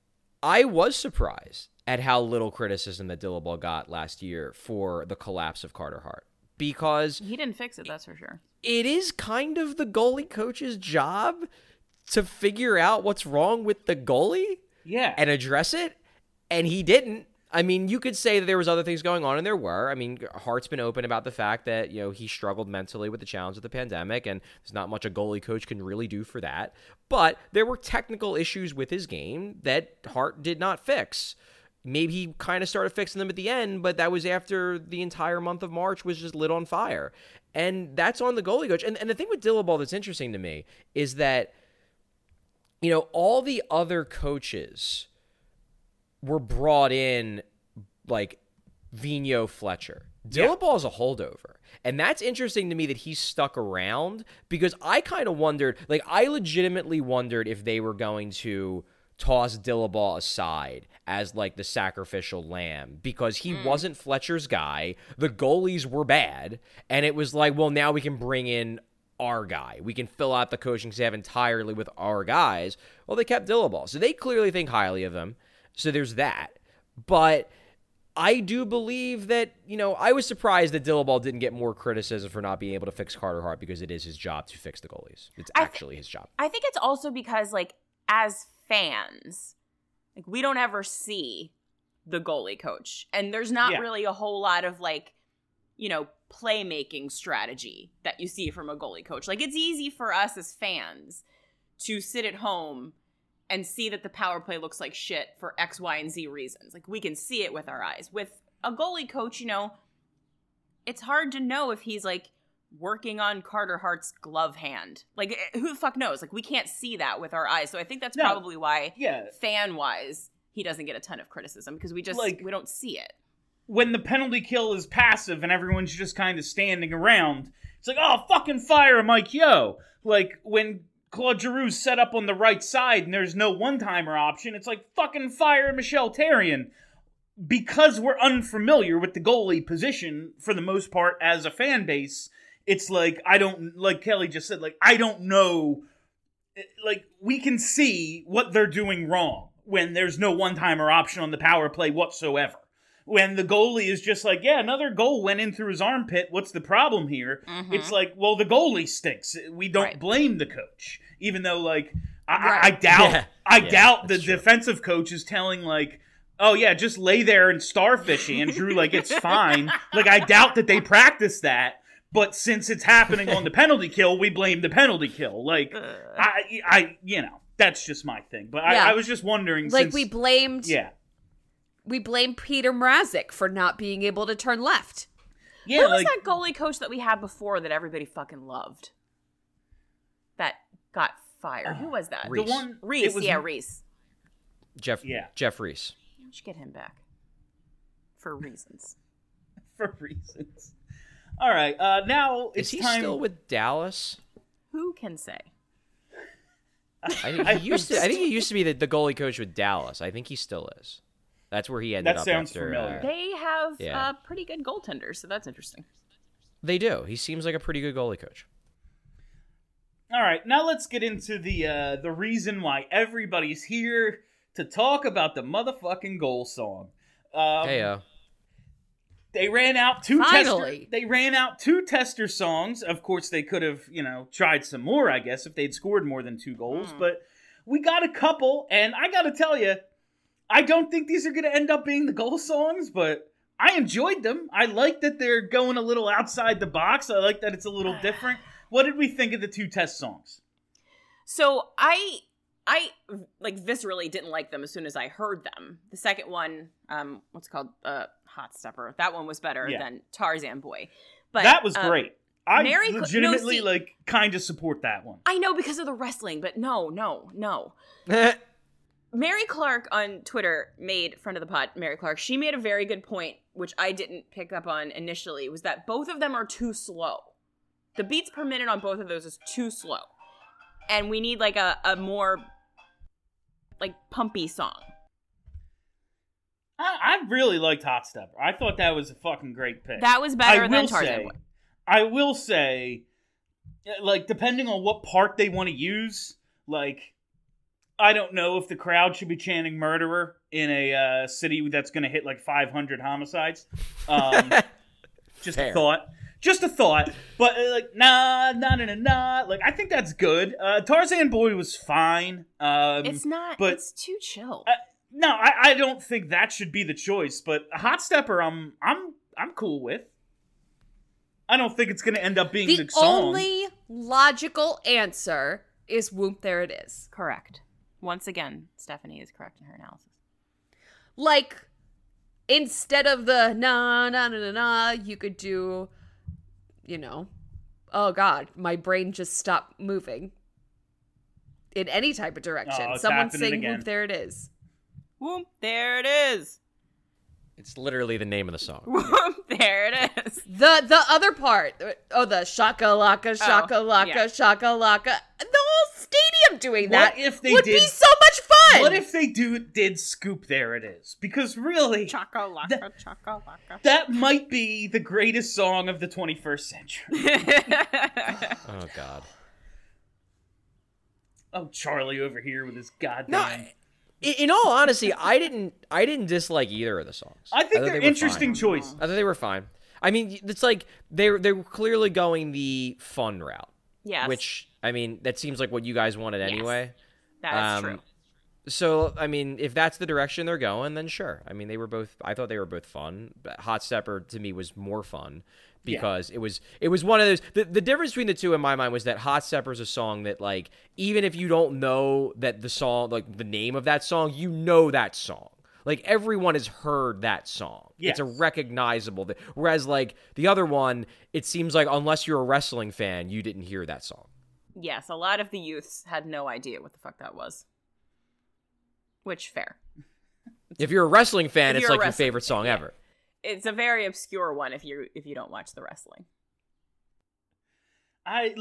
S9: I was surprised at how little criticism that Dillabaugh got last year for the collapse of Carter Hart, because
S7: he didn't fix it, that's for sure.
S9: It is kind of the goalie coach's job to figure out what's wrong with the goalie, and address it, and he didn't. I mean, you could say that there was other things going on, and there were. I mean, Hart's been open about the fact that, you know, he struggled mentally with the challenge of the pandemic, and there's not much a goalie coach can really do for that. But there were technical issues with his game that Hart did not fix. Maybe he kind of started fixing them at the end, but that was after the entire month of March was just lit on fire. And that's on the goalie coach. And the thing with Dillabaugh that's interesting to me is that, you know, all the other coaches were brought in like Vigneault, Fletcher. Dillabaugh is a holdover. And that's interesting to me that he's stuck around, because I kind of wondered, like, I legitimately wondered if they were going to toss Dillabaugh aside as like the sacrificial lamb, because he wasn't Fletcher's guy. The goalies were bad. And it was like, well, now we can bring in our guy. We can fill out the coaching staff entirely with our guys. Well, they kept Dillabaugh. So they clearly think highly of him. So there's that. But I do believe that, you know, I was surprised that Dillabaugh didn't get more criticism for not being able to fix Carter Hart, because it is his job to fix the goalies. It's actually his job.
S7: I think it's also because, like, as fans, like, we don't ever see the goalie coach. And there's not really a whole lot of, like, you know, playmaking strategy that you see from a goalie coach. Like, it's easy for us as fans to sit at home and see that the power play looks like shit for X, Y, and Z reasons. Like, we can see it with our eyes. With a goalie coach, you know, it's hard to know if he's, like, working on Carter Hart's glove hand. Like, who the fuck knows? Like, we can't see that with our eyes. So I think that's probably why, fan-wise, he doesn't get a ton of criticism, because we just, like, we don't see it.
S6: When the penalty kill is passive and everyone's just kind of standing around, it's like, oh, fucking fire Mike Yeo. Like, when Claude Giroux's set up on the right side and there's no one-timer option, it's like, fucking fire Michel Therrien. Because we're unfamiliar with the goalie position for the most part as a fan base, it's like, I don't, like Kelly just said, like, I don't know, like, we can see what they're doing wrong when there's no one-timer option on the power play whatsoever. When the goalie is just like, yeah, another goal went in through his armpit, what's the problem here? Mm-hmm. It's like, well, the goalie stinks. We don't blame the coach. Even though, like, I doubt the defensive coach is telling, like, oh, yeah, just lay there and starfish, Andrew, like, it's fine. Like, I doubt that they practice that. But since it's happening on the penalty kill, we blame the penalty kill. Like, I you know, that's just my thing. But I was just wondering,
S8: like,
S6: since,
S8: we blamed Peter Mrazek for not being able to turn left.
S7: Yeah, who was that goalie coach that we had before that everybody fucking loved? That got fired. Who was that?
S9: Reese.
S7: The one Reese. Reese.
S9: Jeff Reese.
S7: We should get him back for reasons.
S6: For reasons. All right, now it's
S9: time. Is he
S6: time...
S9: still with Dallas?
S7: Who can say?
S9: I think he used to be the goalie coach with Dallas. I think he still is. That's where he ended up.
S6: That sounds
S9: after,
S6: familiar.
S7: They have pretty good goaltenders, so that's interesting.
S9: They do. He seems like a pretty good goalie coach.
S6: All right, now let's get into the reason why everybody's here to talk about the motherfucking goal song. They ran out two tester songs. Of course, they could have, you know, tried some more, I guess, if they'd scored more than 2 goals. But we got a couple, and I got to tell you, I don't think these are going to end up being the goal songs, but I enjoyed them. I like that they're going a little outside the box. I like that it's a little different. What did we think of the 2 test songs?
S7: So I like viscerally didn't like them as soon as I heard them. The second one, what's it called? Hot Stepper. That one was better than Tarzan Boy. But
S6: that was great. I legitimately kind of support that one.
S7: I know because of the wrestling, but no. Mary Clark on Twitter friend of the pod, Mary Clark, she made a very good point, which I didn't pick up on initially, was that both of them are too slow. The beats per minute on both of those is too slow. and we need like a more like pumpy song.
S6: I really liked Hot Stepper. I thought that was a fucking great pick.
S7: That was better than Tarzan Boy.
S6: I will say, like, depending on what part they want to use, like, I don't know if the crowd should be chanting murderer in a city that's going to hit like 500 homicides. Just
S9: Fair.
S6: a thought. Just a thought. But, like, nah. Like, I think that's good. Tarzan Boy was fine.
S7: It's not,
S6: but,
S7: it's too chill.
S6: No, I don't think that should be the choice, but Hot Stepper, I'm cool with. I don't think it's going to end up being the song.
S8: The only logical answer is Whoop, There It Is.
S7: Correct. Once again, Stephanie is correct in her analysis.
S8: Like, instead of the na na na na na, you could do, you know, oh God, my brain just stopped moving. In any type of direction.
S6: Oh, it's
S8: Someone
S6: happening
S8: sing
S6: again.
S8: Whoop, There It Is.
S7: Whoop, there it is.
S9: It's literally the name of the song.
S7: Whoop, there it is.
S8: The other part, the shakalaka, shakalaka,
S7: yeah.
S8: shakalaka. The whole stadium doing that
S6: What if they
S8: would
S6: did-
S8: be so much fun.
S6: What if they did Scoop There It Is? Because really,
S7: Chakalaka, chakalaka.
S6: that might be the greatest song of the 21st century.
S9: Oh God.
S6: Oh, Charlie over here with his goddamn...
S9: No, in all honesty, I didn't dislike either of the songs.
S6: I think
S9: thought
S6: they're
S9: they were
S6: interesting
S9: fine.
S6: choices.
S9: I thought they were fine. I mean, it's like they were clearly going the fun route.
S7: Yes.
S9: Which, I mean, that seems like what you guys wanted anyway.
S7: That is true.
S9: So, I mean, if that's the direction they're going, then sure. I mean, I thought they were both fun. But Hot Stepper, to me, was more fun because it was one of those... The difference between the two in my mind was that Hot Stepper is a song that, like, even if you don't know that the song, like, the name of that song, you know that song. Like, everyone has heard that song.
S6: Yes.
S9: It's a recognizable... Whereas, like, the other one, it seems like unless you're a wrestling fan, you didn't hear that song.
S7: Yes, a lot of the youths had no idea what the fuck that was. Which, fair.
S9: If you're a wrestling fan,
S7: If
S9: it's
S7: you're a
S9: like your
S7: wrestling
S9: favorite song
S7: fan, yeah.
S9: ever.
S7: It's a very obscure one if you don't watch the wrestling.
S6: I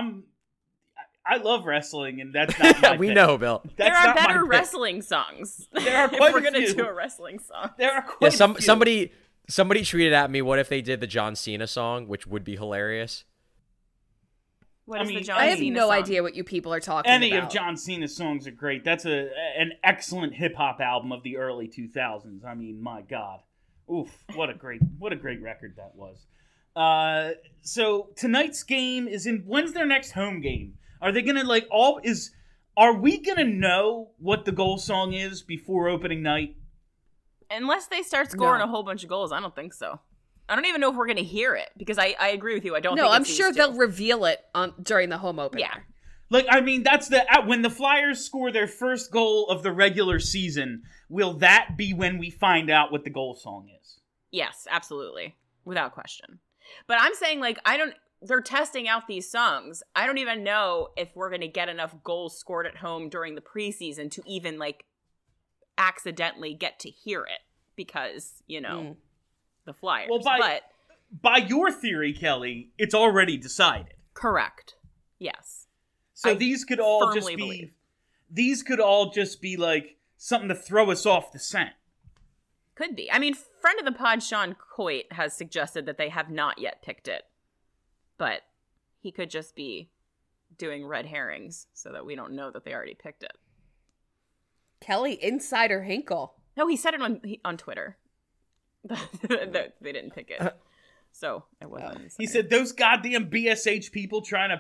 S6: love wrestling, and that's not my
S9: We
S6: pick.
S9: know, Bill.
S6: That's
S7: There are
S6: not my
S7: better
S6: pick.
S7: wrestling songs.
S6: There are
S7: if
S6: quite
S7: we're
S6: a
S7: gonna
S6: few.
S7: do a wrestling song.
S6: There are
S9: Yeah,
S6: quite a few.
S9: somebody tweeted at me, what if they did the John Cena song, which would be hilarious.
S7: What
S6: I
S7: is
S6: mean,
S7: the John
S8: I have
S7: Cena
S8: no
S7: song?
S8: idea what you people are talking
S6: Any
S8: about.
S6: of John Cena's songs are great. That's an excellent hip hop album of the early 2000s. I mean, my God, oof! What a great record that was. So tonight's game is in. When's their next home game? Are they gonna Are we gonna know what the goal song is before opening night?
S7: Unless they start scoring
S8: No.
S7: a whole bunch of goals, I don't think so. I don't even know if we're going to hear it because I agree with you. I don't.
S8: No,
S7: think
S8: I'm
S7: it's
S8: sure
S7: these
S8: they'll
S7: two.
S8: reveal it during the home opener.
S7: Yeah.
S6: Like, I mean, that's when the Flyers score their first goal of the regular season. Will that be when we find out what the goal song is?
S7: Yes, absolutely, without question. But I'm saying they're testing out these songs. I don't even know if we're going to get enough goals scored at home during the preseason to even accidentally get to hear it because the Flyers.
S6: Well,
S7: but
S6: by your theory, Kelly, it's already decided.
S7: correct. Yes.
S6: So
S7: I
S6: these could all just
S7: firmly
S6: be
S7: believe.
S6: these could all just be like something to throw us off the scent.
S7: Could be. I mean, friend of the pod, Sean Coit, has suggested that they have not yet picked it. But he could just be doing red herrings so that we don't know that they already picked it.
S8: Kelly, Insider Hinkle.
S7: No, he said it on Twitter. That they didn't pick it. So it wasn't.
S6: He said those goddamn BSH people trying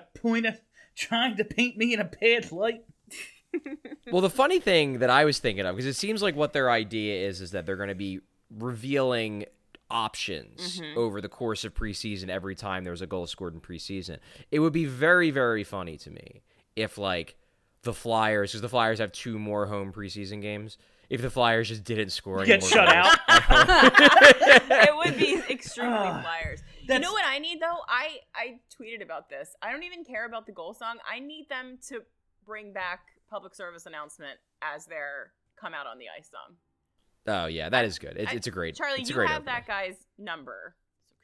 S6: to paint me in a bad light.
S9: Well, the funny thing that I was thinking of, because it seems like what their idea is that they're going to be revealing options over the course of preseason every time there's a goal scored in preseason. It would be very, very funny to me if, the Flyers, because the Flyers have 2 more home preseason games, if the Flyers just didn't score any
S6: Get
S9: more
S6: shut
S9: goals.
S6: out.
S7: It would be extremely Flyers. You know what I need, though? I tweeted about this. I don't even care about the goal song. I need them to bring back public service announcement as their come out on the ice song.
S9: Oh, yeah, that is good. It's a great
S7: Charlie,
S9: it's a
S7: you
S9: great
S7: have
S9: opener.
S7: that guy's number. So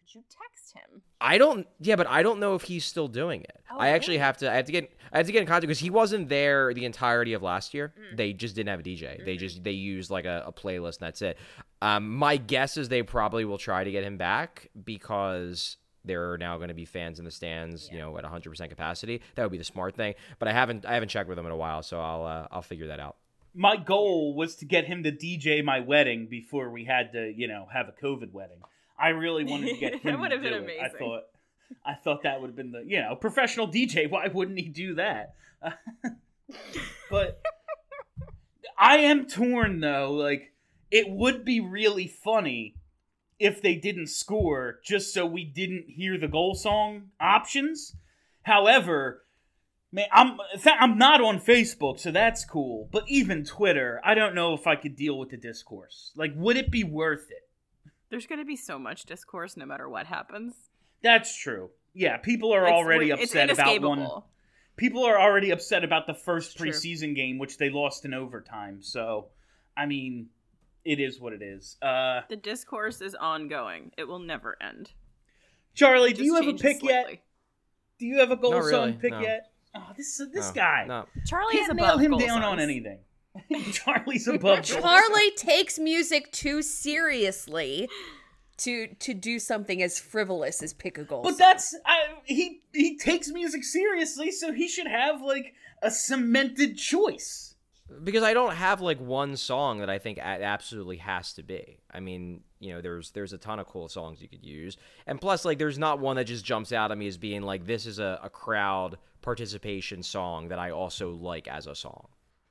S7: Could you text him?
S9: I don't know if he's still doing it.
S7: Oh,
S9: I actually
S7: really?
S9: I have to get in contact because he wasn't there the entirety of last year. They just didn't have a DJ. They used like a playlist and that's it. My guess is they probably will try to get him back because there are now going to be fans in the stands, at 100% capacity. That would be the smart thing. But I haven't checked with him in a while, so I'll figure that out.
S6: My goal was to get him to DJ my wedding before we had to, have a COVID wedding. I really wanted to get him
S7: That would have
S6: to
S7: been
S6: do it.
S7: amazing.
S6: I thought that would have been the, professional DJ. Why wouldn't he do that? But I am torn though. Like, it would be really funny if they didn't score just so we didn't hear the goal song options. However, man, I'm not on Facebook, so that's cool. But even Twitter, I don't know if I could deal with the discourse. Like, would it be worth it?
S7: There's going to be so much discourse no matter what happens.
S6: That's true. Yeah, people are already upset about one. People are already upset about the first preseason game, which they lost in overtime. So, I mean, it is what it is.
S7: The discourse is ongoing. It will never end.
S6: Charlie, do you have a pick yet? Do you have a goal
S9: Not
S6: song
S9: really,
S6: pick
S9: no.
S6: yet? Oh, this guy.
S9: No.
S7: Charlie is
S6: Can't
S7: above
S6: nail him
S7: goal
S6: down on
S7: songs.
S6: anything. Charlie's above.
S8: Charlie takes music too seriously to do something as frivolous as pick a goal.
S6: But that's he takes music seriously, so he should have like a cemented choice.
S9: Because I don't have like one song that I think absolutely has to be. I mean, there's a ton of cool songs you could use. And plus, like, there's not one that just jumps out at me as being like, this is a crowd participation song that I also like as a song.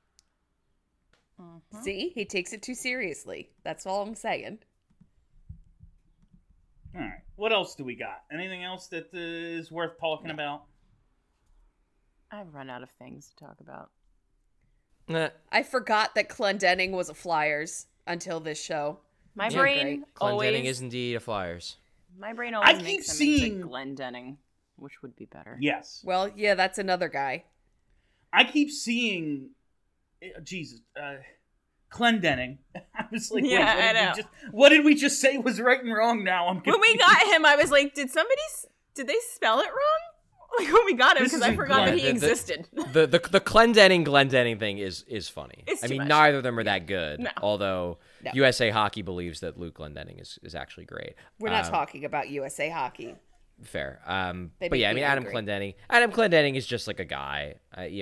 S8: See, he takes it too seriously. That's all I'm saying.
S6: All right. What else do we got? Anything else that is worth talking about?
S7: I've run out of things to talk about.
S9: Nah.
S8: I forgot that Clendenning was a Flyers until this show.
S7: My
S8: Yeah,
S7: brain
S8: great.
S7: always
S9: Clendenning is indeed a Flyers.
S7: My brain
S6: I
S7: always
S6: keep
S7: makes them
S6: seeing-
S7: into Glendenning, which would be better.
S6: Yes.
S8: Well, yeah, that's another guy.
S6: I keep seeing Jesus, Clendenning. I was like,
S7: Yeah,
S6: wait,
S7: I know.
S6: what did we just say was right and wrong now? I'm
S7: When
S6: confused.
S7: we got him, I was like, did they spell it wrong? Like, when we got him,
S6: This
S7: because I
S6: isn't
S7: forgot that
S6: Glenn.
S7: he existed.
S9: The Clendenning thing is funny.
S7: It's
S9: I
S7: too
S9: mean,
S7: much.
S9: neither of them are that good.
S7: No.
S9: Although
S8: No.
S9: USA Hockey believes that Luke Clendenning is actually great.
S8: We're not talking about USA Hockey.
S9: Fair.
S8: They
S9: But yeah, I
S8: make
S9: mean,
S8: me
S9: Adam
S8: angry.
S9: Clendenning. Adam Clendenning is just like a guy.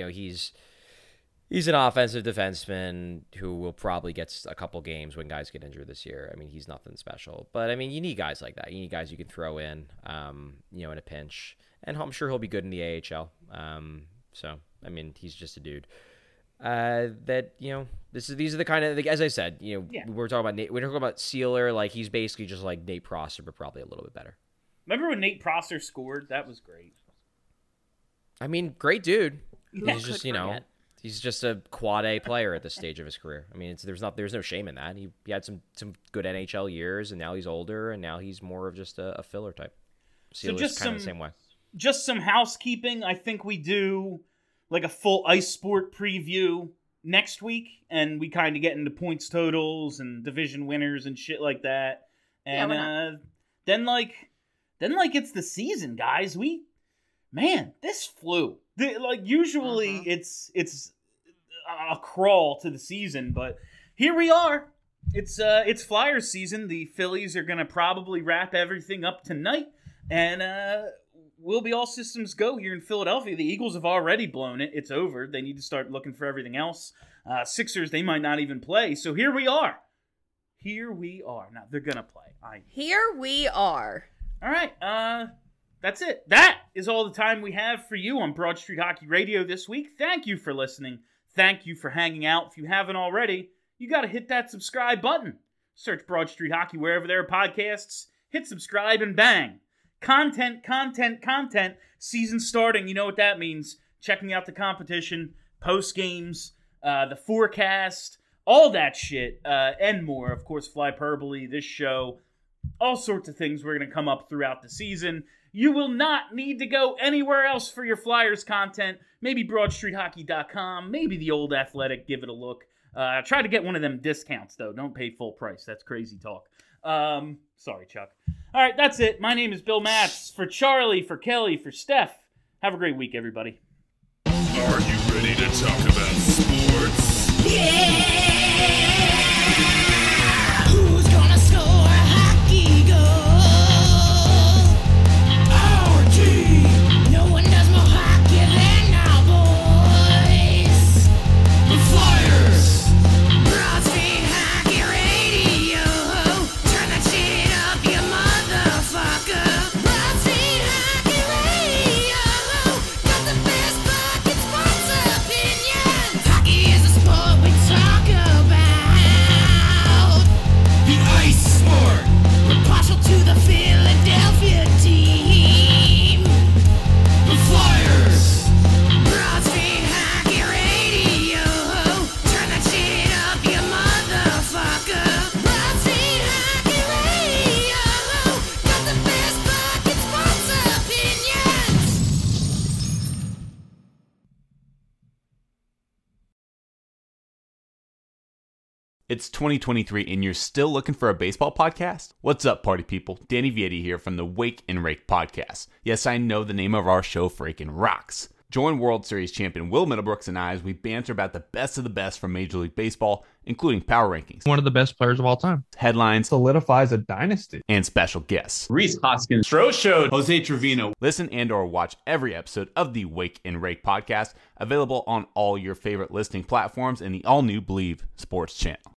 S9: He's an offensive defenseman who will probably get a couple games when guys get injured this year. I mean, he's nothing special. But, I mean, you need guys like that. You need guys you can throw in, in a pinch. And I'm sure he'll be good in the AHL. So, I mean, he's just a dude. These are the kind of, like, as I said, we're talking about Sealer. Like, he's basically just like Nate Prosser, but probably a little bit better.
S6: Remember when Nate Prosser scored? That was great.
S9: I mean, great dude.
S7: Who
S9: He's
S7: could
S9: just,
S7: forget?
S9: he's just a quad A player at this stage of his career. I mean, there's no shame in that. He had some good NHL years, and now he's older, and now he's more of just a filler type. Sealer's
S6: just
S9: kind of the same way.
S6: Just some housekeeping. I think we do like a full ice sport preview next week, and we kind of get into points totals and division winners and shit like that. And then it's the season, guys. This flew. Usually it's a crawl to the season, but here we are. It's Flyers season. The Phillies are gonna probably wrap everything up tonight, and we'll be all systems go here in Philadelphia. The Eagles have already blown it. It's over. They need to start looking for everything else. Sixers, they might not even play. So here we are. Now they're gonna play.
S8: Here we are.
S6: All right. That's it. That is all the time we have for you on Broad Street Hockey Radio this week. Thank you for listening. Thank you for hanging out. If you haven't already, you got to hit that subscribe button. Search Broad Street Hockey wherever there are podcasts. Hit subscribe and bang. Content. Season starting. You know what that means. Checking out the competition, post games, the forecast, all that shit, and more. Of course, Flyperbole, this show, all sorts of things we're going to come up throughout the season. You will not need to go anywhere else for your Flyers content. Maybe BroadStreetHockey.com, maybe The Old Athletic, give it a look. Try to get one of them discounts, though. Don't pay full price. That's crazy talk. Sorry, Chuck. All right, that's it. My name is Bill Matz. For Charlie, for Kelly, for Steph. Have a great week, everybody.
S1: Are you ready to talk about sports?
S5: Who's gonna score a hockey goal? Our team. No one does more hockey than our boys. The Flyers. Broad Street Hockey Radio. Turn that shit up, you motherfucker. Broad Street Hockey Radio. Got the best fucking sports opinions. Hockey is a sport we talk about. The ice sport. We're partial to the Philadelphia team. The Flyers. Broad Street Hockey Radio. Turn that shit up, you motherfucker. Broad Street Hockey Radio. Got the best fucking sports opinions.
S11: It's 2023 and you're still looking for a baseball podcast? What's up, party people? Danny Vietti here from the Wake and Rake podcast. Yes, I know the name of our show freaking rocks. Join World Series champion Will Middlebrooks and I as we banter about the best of the best from Major League Baseball, including power rankings,
S12: One of the best players of all time.
S11: headlines,
S12: Solidifies a dynasty.
S11: and special guests.
S13: Reese Hoskins, Stro Show,
S11: Jose Trevino. Listen and or watch every episode of the Wake and Rake podcast, available on all your favorite listening platforms and the all-new Believe Sports channel.